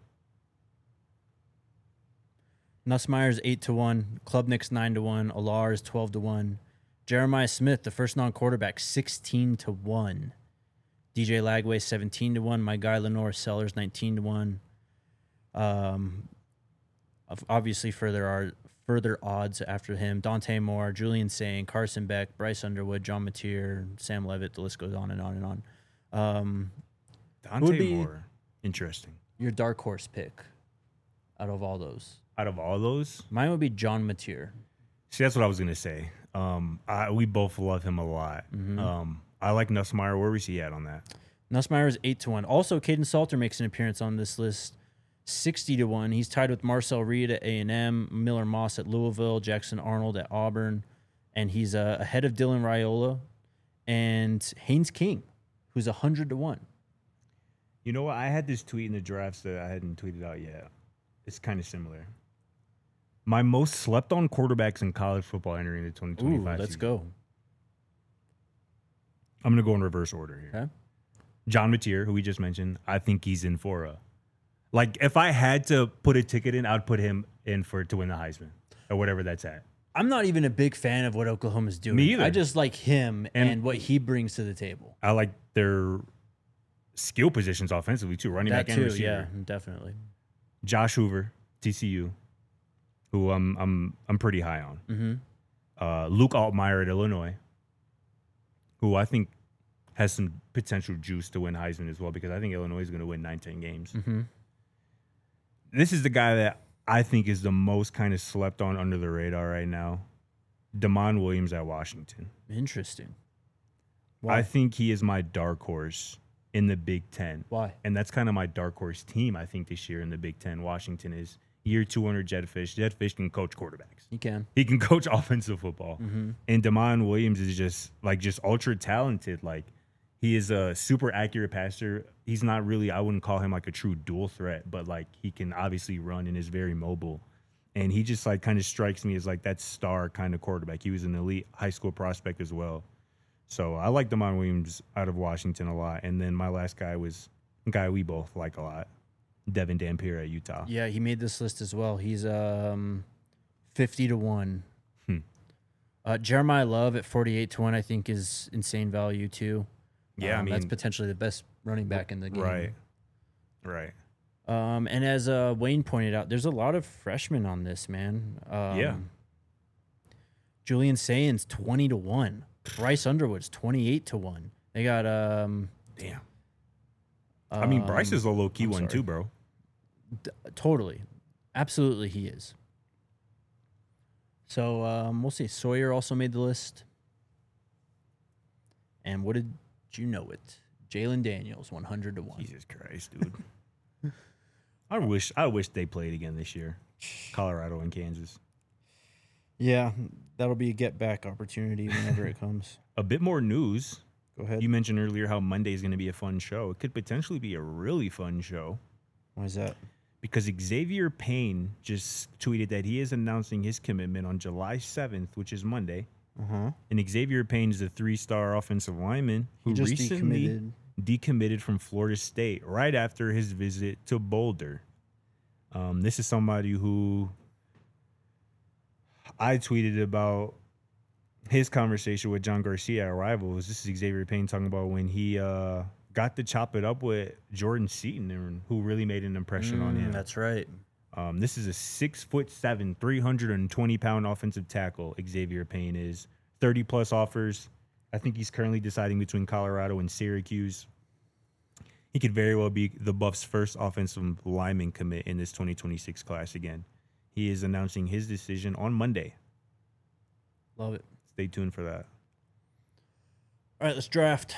Nussmeier's eight to one. Klubnik's nine to one. Alar is twelve to one. Jeremiah Smith, the first non-quarterback, sixteen to one. D J Lagway, seventeen to one. My guy Lenore Sellers, nineteen to one. Um, of- obviously further are further odds after him. Dante Moore, Julian Sain, Carson Beck, Bryce Underwood, John Mateer, Sam Levitt. The list goes on and on and on. Um, Dante would be- Moore. Interesting. your dark horse pick out of all those. Out of all those, Mine would be John Mateer. see, that's what I was gonna say. Um, I, we both love him a lot. Mm-hmm. Um, I like Nussmeier. Where was he at on that? Nussmeier is eight to one. Also, Caden Salter makes an appearance on this list, sixty to one. He's tied with Marcel Reed at A and M, Miller Moss at Louisville, Jackson Arnold at Auburn, and he's uh, ahead of Dylan Raiola and Haynes King, who's one hundred to one. You know what? I had this tweet in the drafts that I hadn't tweeted out yet. It's kind of similar. My most slept on quarterbacks in college football entering the twenty Ooh, twenty-five let's season. go. I'm going to go in reverse order here. Okay. John Mateer, who we just mentioned, I think he's in for a. Like, if I had to put a ticket in, I'd put him in for to win the Heisman or whatever that's at. I'm not even a big fan of what Oklahoma's doing. Me either. I just like him and, And- what he brings to the table. I like their skill positions offensively, too, running That back and too, receiver. yeah, definitely. Josh Hoover, T C U, who I'm I'm I'm pretty high on. Mm-hmm. Uh, Luke Altmaier at Illinois, who I think has some potential juice to win Heisman as well, because I think Illinois is going to win nine, ten games. Mm-hmm. This is the guy that I think is the most kind of slept on under the radar right now. Damon Williams at Washington. Interesting. I Why? think he is my dark horse in the Big Ten. Why? And that's kind of my dark horse team, I think, this year in the Big Ten. Washington is year two hundred Jetfish. Jetfish can coach quarterbacks. He can. He can coach offensive football. Mm-hmm. And Damon Williams is just like just ultra talented. Like he is a super accurate passer. He's not really, I wouldn't call him like a true dual threat, but like he can obviously run and is very mobile. And he just like kind of strikes me as like that star kind of quarterback. He was an elite high school prospect as well. So I like Damon Williams out of Washington a lot. And then my last guy was a guy we both like a lot, Devin Dampier at Utah. Yeah, he made this list as well. He's um fifty to one. Hmm. Uh, Jeremiah Love at forty-eight to one, I think, is insane value too. Yeah, I Um, that's mean- potentially the best running back in the game. Right. Right. Um, and as uh, Wayne pointed out, there's a lot of freshmen on this, man. Um, Yeah. Julian Sain's twenty to one. Bryce Underwood's twenty-eight to one. They got um. Damn. I mean, Bryce um, is a low key I'm one sorry. too, bro. D- totally, absolutely, he is. So um, we'll see. Sawyer also made the list. And what did you know it? Jalen Daniels, one hundred to one. Jesus Christ, dude. I wish I wish they played again this year. Colorado and Kansas. Yeah, that'll be a get back opportunity whenever it comes. A bit more news. Go ahead. You mentioned earlier how Monday is going to be a fun show. It could potentially be a really fun show Why is that? because Xavier Payne just tweeted that he is announcing his commitment on July seventh, which is Monday. Uh huh. And Xavier Payne is a three-star offensive lineman who He just recently decommitted. decommitted from Florida State right after his visit to Boulder. Um, this is somebody who I tweeted about his conversation with John Garcia at Rivals. This is Xavier Payne talking about when he uh, got to chop it up with Jordan Seaton, and who really made an impression on him. That's right. Um, this is a six foot seven, three hundred twenty pound offensive tackle. Xavier Payne is thirty plus offers. I think he's currently deciding between Colorado and Syracuse. He could very well be the Buffs' first offensive lineman commit in this twenty twenty-six class again. He is announcing his decision on Monday. Love it. Stay tuned for that. All right, let's draft.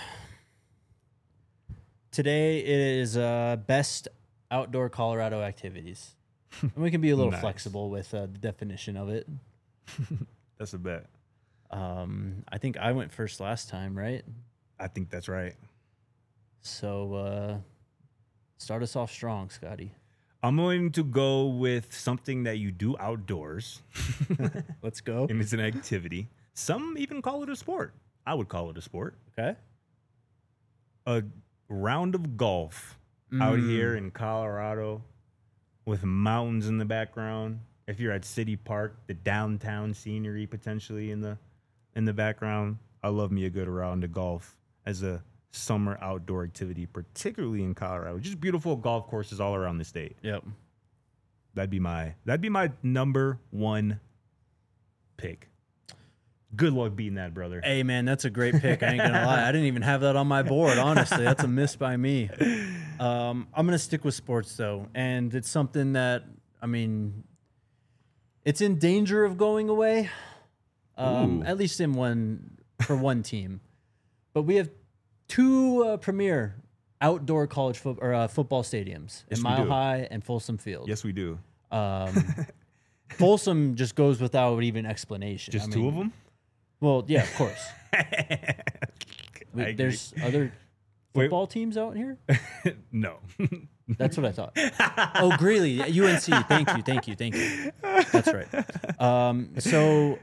Today it is uh, best outdoor Colorado activities. And we can be a little Nice. flexible with uh, the definition of it. That's a bet. Um, I think I went first last time, right? I think that's right. So uh, start us off strong, Scotty. I'm going to go with something that you do outdoors. Let's go. And it's an activity. Some even call it a sport. I would call it a sport. Okay. A round of golf out Mm. here in Colorado with mountains in the background. If you're at City Park, the downtown scenery potentially in the in the background. I love me a good round of golf as a summer outdoor activity, particularly in Colorado. Just beautiful golf courses all around the state. Yep. That'd be my that'd be my number one pick. Good luck beating that, brother. Hey, man, that's a great pick. I ain't going to lie. I didn't even have that on my board, honestly. That's a miss by me. Um, I'm going to stick with sports, though. And it's something that, I mean, it's in danger of going away, um, Ooh. at least in one for one team. But we have two uh, premier outdoor college fo- or, uh, football stadiums Yes, in we Mile do. High and Folsom Field. Yes, we do. Um, Folsom just goes without even explanation. Just I two mean, of them? Well, yeah, of course. We- I agree. there's other Wait. football teams out here. No. That's what I thought. Oh, Greeley, U N C. Thank you, thank you, thank you. That's right. Um, so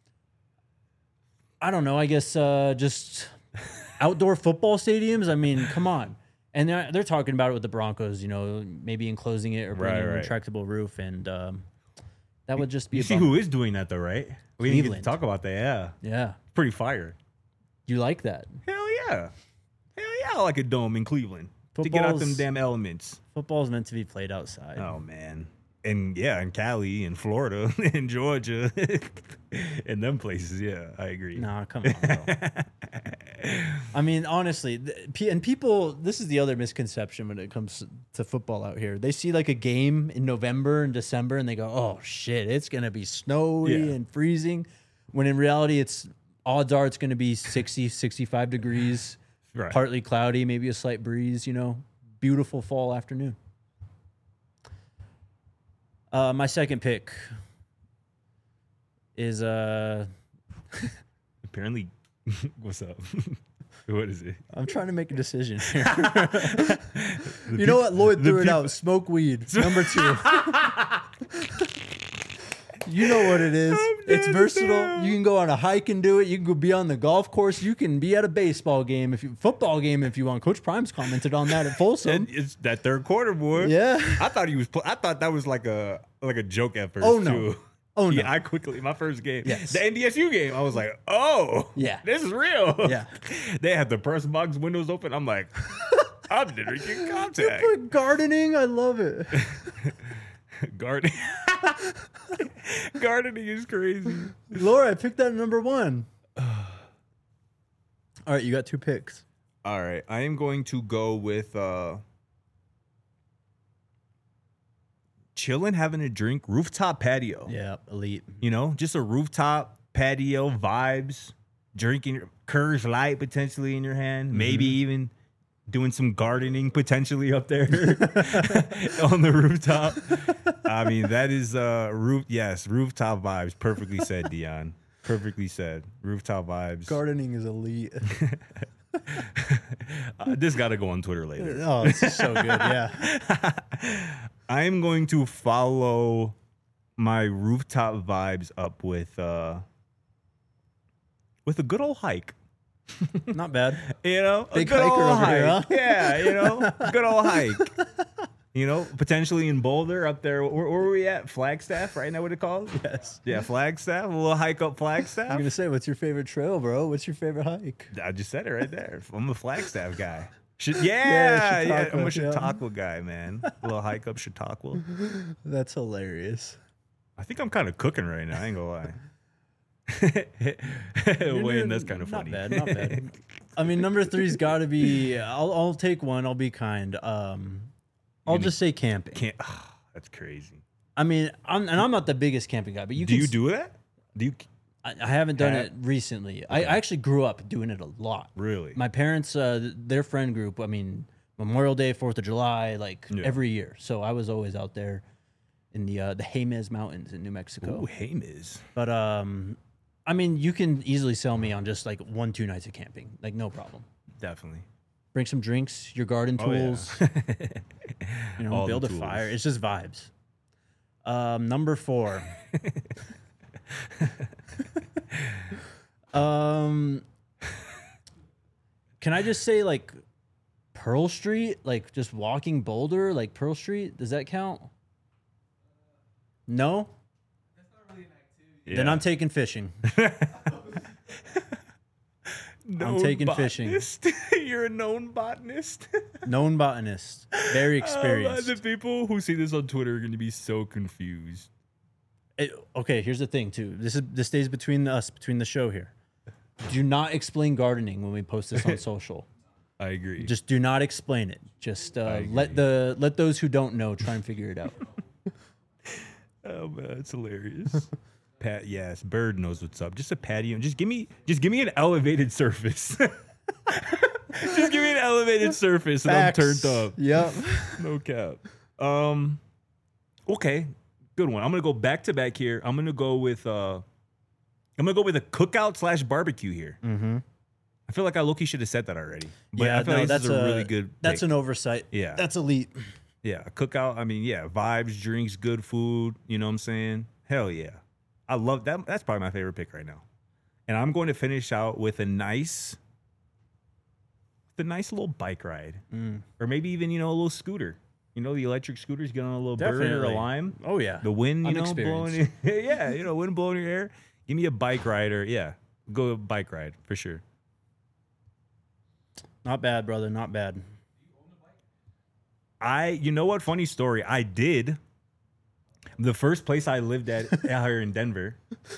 I don't know. I guess uh, just outdoor football stadiums. I mean, come on. And they're, they're talking about it with the Broncos. You know, maybe enclosing it or bringing Right, a right. retractable roof, and um, that would just be. You a see bummer. who is doing that though, right? We didn't get Cleveland. to talk about that. Yeah. Yeah, Pretty fire. you like that? Hell yeah. Hell yeah, I like a dome in Cleveland. To get out them Football's- damn elements. Football is meant to be played outside. Oh man. And yeah, in Cali and Florida and Georgia and them places, yeah, I agree. Nah, come on, bro. I mean, honestly, th- pe- and people, this is the other misconception when it comes to football out here. They see like a game in November and December and they go, oh shit, it's going to be snowy Yeah. and freezing. When in reality, it's odds are it's going to be sixty, sixty-five degrees, Right. partly cloudy, maybe a slight breeze, you know, beautiful fall afternoon. Uh, my second pick is uh, Apparently, what's up? What is it? I'm trying to make a decision here. You know what? Lloyd the threw it peop- out. Smoke weed. Number two. You know what it is. I'm It's dead versatile. now. You can go on a hike and do it. You can go be on the golf course. You can be at a baseball game, if you football game if you want. Coach Prime's commented on that at Folsom. And it's that third quarter, boy. Yeah. I thought he was. Pl- I thought that was like a like a joke at first. Oh, no. Too. Oh, no. Yeah, I quickly my first game, Yes. the N D S U game. I was like, oh, Yeah. this is real. Yeah. They had the press box windows open. I'm like, I'm drinking contact. Put gardening. I love it. Gardening, gardening is crazy. Laura, I picked that number one. All right, you got two picks. All right, I am going to go with uh, chilling, having a drink, rooftop patio. Yeah, elite. You know, just a rooftop patio vibes, drinking Coors Light potentially in your hand, maybe even doing some gardening potentially up there on the rooftop. I mean, that is uh roof yes, rooftop vibes. Perfectly said, Dion. Perfectly said. Rooftop vibes. Gardening is elite. Uh, this got to go on Twitter later. Oh, this is so good. Yeah. I am going to follow my rooftop vibes up with uh with a good old hike. Not bad. You know, Big a good hiker old over here, hike. huh? Yeah, you know, good old hike. You know, potentially in Boulder up there. Where, where were we at? Flagstaff, right? Now what it called? Yes. Yeah, Flagstaff. A little hike up I was Flagstaff. gonna say, what's your favorite trail, bro? What's your favorite hike? I just said it right there. I'm a Flagstaff guy. Should, Yeah, yeah, yeah, I'm a Chautauqua, yeah. Chautauqua guy, man. A little hike up Chautauqua. That's hilarious. I think I'm kind of cooking right now. I ain't gonna lie. You're Wayne, doing- that's kind of not funny. bad, not bad. I mean, number three's got to be. I'll I'll take one. I'll be kind. Um, I'll gonna- just say camping. Can't. That's crazy. I mean, I'm and I'm not the biggest camping guy, but you do can you s- do that? Do you I, I haven't done Ha- it recently. I, I actually grew up doing it a lot. really? My parents, uh, th- their friend group. I mean, Memorial Day, Fourth of July, like Yeah. every year. So I was always out there in the uh, the Jemez Mountains in New Mexico. Ooh, Hamis. But um, I mean, you can easily sell me on just like one, two nights of camping. Like, no problem. Definitely. Bring some drinks, your garden Oh, yeah. tools, you know, All the build a tools. fire. It's just vibes. Um, number four. um, can I just say like Pearl Street, like just walking Boulder, like Pearl Street? Does that count? No. Then Yeah. I'm taking fishing. Known taking fishing. botanist. You're a known botanist. Known botanist, very Oh, experienced. the people who see this on Twitter are going to be so confused. It- okay, here's the thing too. This is this stays between us, between the show here. Do not explain gardening when we post this on social. I agree. Just do not explain it. Just uh, agree. let the let those who don't know try and figure it out. Oh man, it's hilarious. Pat, yes, Bird knows what's up. Just a patio. Just give me, just give me an elevated surface. Just give me an elevated surface, and I'm turned up. Yep. No cap. Um, okay, good one. I'm gonna go back to back here. I'm gonna go with uh, I'm gonna go with a cookout slash barbecue here. Mm-hmm. I feel like I low-key should have said that already. But Yeah, I feel no, like this that's is a, a really good. That's pick. an oversight. Yeah. That's elite. Yeah, a cookout. I mean, yeah, vibes, drinks, good food. You know what I'm saying? Hell yeah. I love that. That's probably my favorite pick right now. And I'm going to finish out with a nice, the nice little bike ride. Mm. Or maybe even, you know, a little scooter. You know, the electric scooters, get on a little bird or a Definitely. lime. Oh yeah. The wind, you I'm know, blowing experienced. your, yeah, you know, wind blowing your hair. Give me a bike ride or, yeah, go a bike ride for sure. Not bad, brother. Not bad. I, you know what? Funny story. I did. The first place I lived at out here in Denver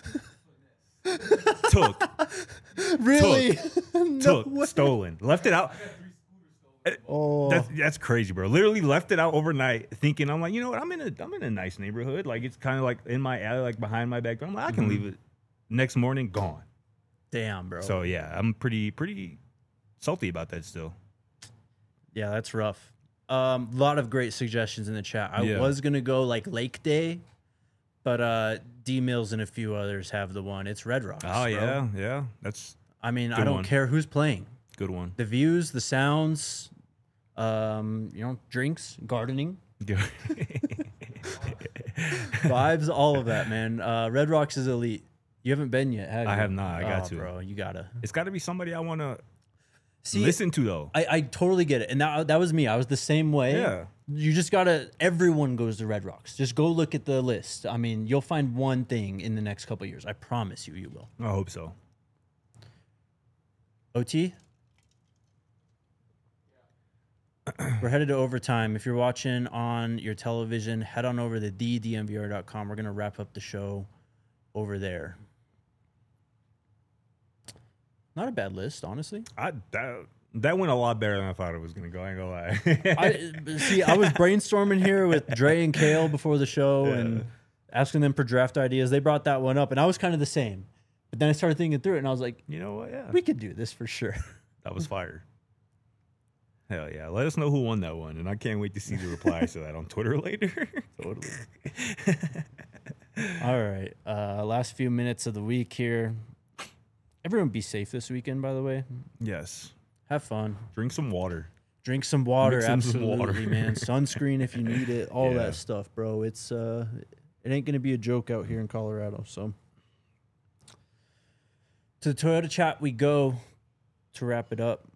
took, Really? took, stolen, left it out. Oh. That's, that's crazy, bro. Literally left it out overnight, thinking I'm like, you know what? I'm in a I'm in a nice neighborhood. Like it's kind of like in my alley, like behind my back door. I'm like, I can leave it. Next morning, gone. Damn, bro. So yeah, I'm pretty pretty salty about that still. Yeah, that's rough. A um, lot of great suggestions in the chat. I Yeah. was gonna go like Lake Day, but uh, D Mills and a few others have the one. It's Red Rocks. Oh bro. yeah, yeah. That's I mean, I Good don't one. care who's playing. a good one. The views, the sounds, um, you know, drinks, gardening, Good. vibes, all of that, man. Uh, Red Rocks is elite. You haven't been yet, have you? I have not. I got Oh, to. bro. You gotta It's got to be somebody I want to see. listen to though. I, I totally get it, and that that was me. I was the same way. Yeah. You just gotta. Everyone goes to Red Rocks. Just go look at the list. I mean, you'll find one thing in the next couple of years. I promise you, you will. I hope so. O T. We're headed to overtime. If you're watching on your television, head on over to the d m v r dot com. We're gonna wrap up the show over there. Not a bad list, honestly. I that that went a lot better than I thought it was gonna go. I ain't gonna lie. I see. I was brainstorming here with Dre and Kale before the show and asking them for draft ideas. They brought that one up, and I was kind of the same. But then I started thinking through it, and I was like, You know what? Yeah, we could do this for sure. that was fire. Hell yeah! Let us know who won that one, and I can't wait to see the replies to that on Twitter later. Totally. All right. Uh, last few minutes of the week here. Everyone be safe this weekend, by the way. Yes. Have fun. Drink some water. Drink some water, Mix in some absolutely, water. man. Sunscreen if you need it, all Yeah. that stuff, bro. It's uh it ain't gonna be a joke out here in Colorado. So to the Toyota chat we go to wrap it up.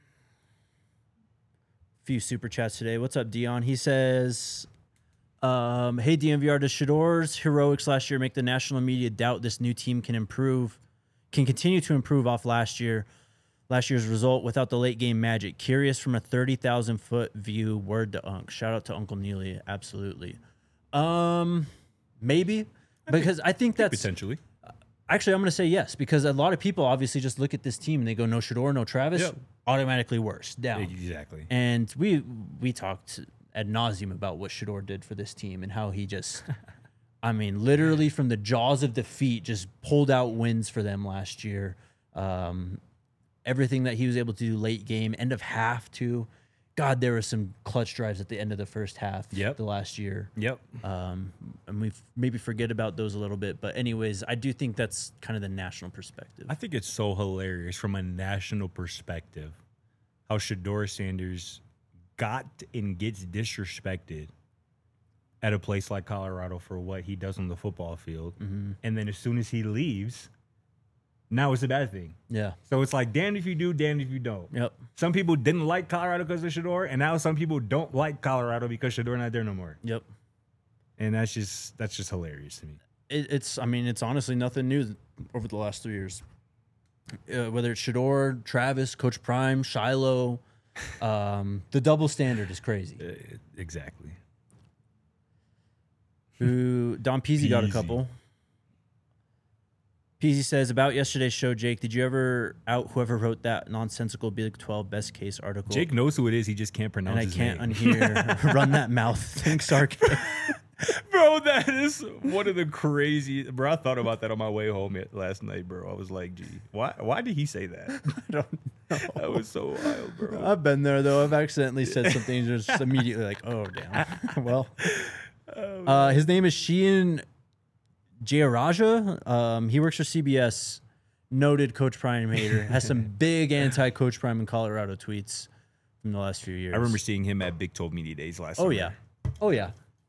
Few super chats today. What's up, Dion? He says, um, hey D M V R, does Shador's heroics last year make the national media doubt this new team can improve, can continue to improve off last year? Last year's result without the late game magic. Curious from a thirty thousand foot view. Word to Unc. Shout out to Uncle Neely. Absolutely. Um, maybe because I think that's Potentially. actually I'm going to say yes because a lot of people obviously just look at this team and they go no Shador, no Travis, Yep. automatically worse down. Exactly. And we we talked ad nauseum about what Shador did for this team and how he just, I mean, literally from the jaws of defeat, just pulled out wins for them last year. Um, everything that he was able to do late game, end of half too, God, there were some clutch drives at the end of the first half. Yep. The last year. Yep. Um, and we maybe forget about those a little bit, but anyways, I do think that's kind of the national perspective. I think it's so hilarious from a national perspective how Shedeur Sanders got and gets disrespected at a place like Colorado for what he does on the football field. Mm-hmm. And then as soon as he leaves, now it's a bad thing. Yeah. So it's like damned if you do, damned if you don't. Yep. Some people didn't like Colorado because of Shedeur, and now some people don't like Colorado because Shedeur not there no more. Yep. And that's just that's just hilarious to me. It, it's I mean it's honestly nothing new over the last three years. Uh, whether it's Shedeur, Travis, Coach Prime, Shiloh, um, the double standard is crazy. Uh, exactly. Who Don Peasy got a Peasy. couple. Peasy says about yesterday's show, Jake. Did you ever out whoever wrote that nonsensical Big twelve best case article? Jake knows who it is. He just can't pronounce and I his can't name. unhear run that mouth. Thanks, Sark. Bro, that is one of the crazy. Bro, I thought about that on my way home yet- last night, bro. I was like, gee, why why did he say that? I don't know. That was so wild, bro. I've been there though. I've accidentally said something just immediately like, oh damn. Well, uh, his name is Sheehan Jayaraja. Um, he works for C B S. Noted Coach Prime hater. Has some big anti-Coach Prime in Colorado tweets from the last few years. I remember seeing him at Big twelve Media Days last Oh summer. yeah. Oh yeah.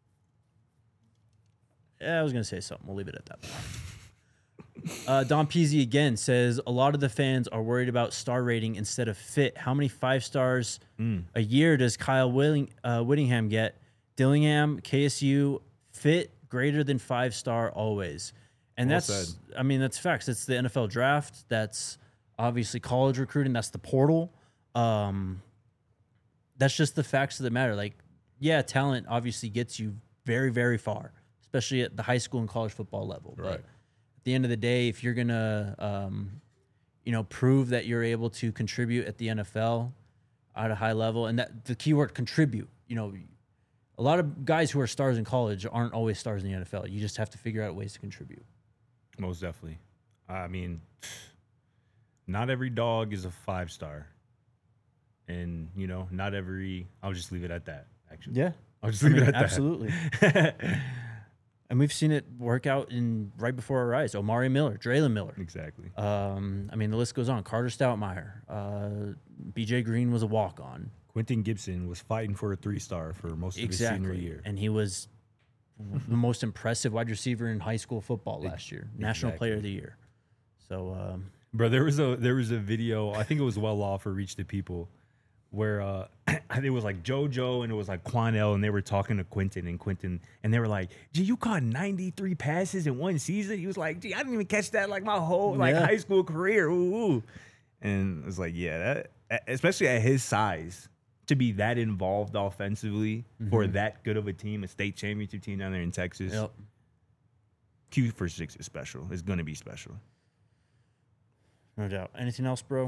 Yeah, I was gonna say something. We'll leave it at that. Uh, Don Peasy again says a lot of the fans are worried about star rating instead of fit. How many five stars Mm. a year does Kyle Willing, uh, Whittingham get? Dillingham, K S U, fit greater than five star always. And Well that's, said. I mean, that's facts. It's the N F L draft. That's obviously college recruiting. That's the portal. Um, that's just the facts of the matter. Like, yeah, talent obviously gets you very, very far, especially at the high school and college football level. Right. But at the end of the day, if you're gonna, um, you know, prove that you're able to contribute at the N F L at a high level, and that the keyword contribute, you know, a lot of guys who are stars in college aren't always stars in the N F L. You just have to figure out ways to contribute. Most definitely. I mean, not every dog is a five star. And, you know, not every, I'll just leave it at that, actually. Yeah, I'll just I leave mean, it at absolutely. that. And we've seen it work out in right before our eyes. Omari Miller, Draylon Miller. Exactly. Um, I mean, the list goes on. Carter Stoutmeyer, uh, B J Green was a walk on. Quentin Gibson was fighting for a three star for most of his senior Exactly. year. And he was the most impressive wide receiver in high school football last year. National Exactly. Player of the Year. So, um, Bro, there was a there was a video, I think it was well off for Reach the People, where uh I think it was like JoJo and it was like Quanell, and they were talking to Quentin and Quentin, and they were like, gee, you caught ninety-three passes in one season? He was like, gee, I didn't even catch that like my whole like Yeah. high school career. Ooh, ooh. And it was like, yeah, that, especially at his size, to be that involved offensively for that good of a team, a state championship team down there in Texas. yep. Q for six is special. It's gonna be special. No doubt. Anything else, bro?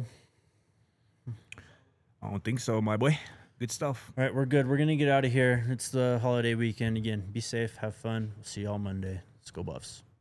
I don't think so, my boy. Good stuff. All right, we're good. We're going to get out of here. It's the holiday weekend. Again, be safe. Have fun. We'll see you all Monday. Let's go Buffs.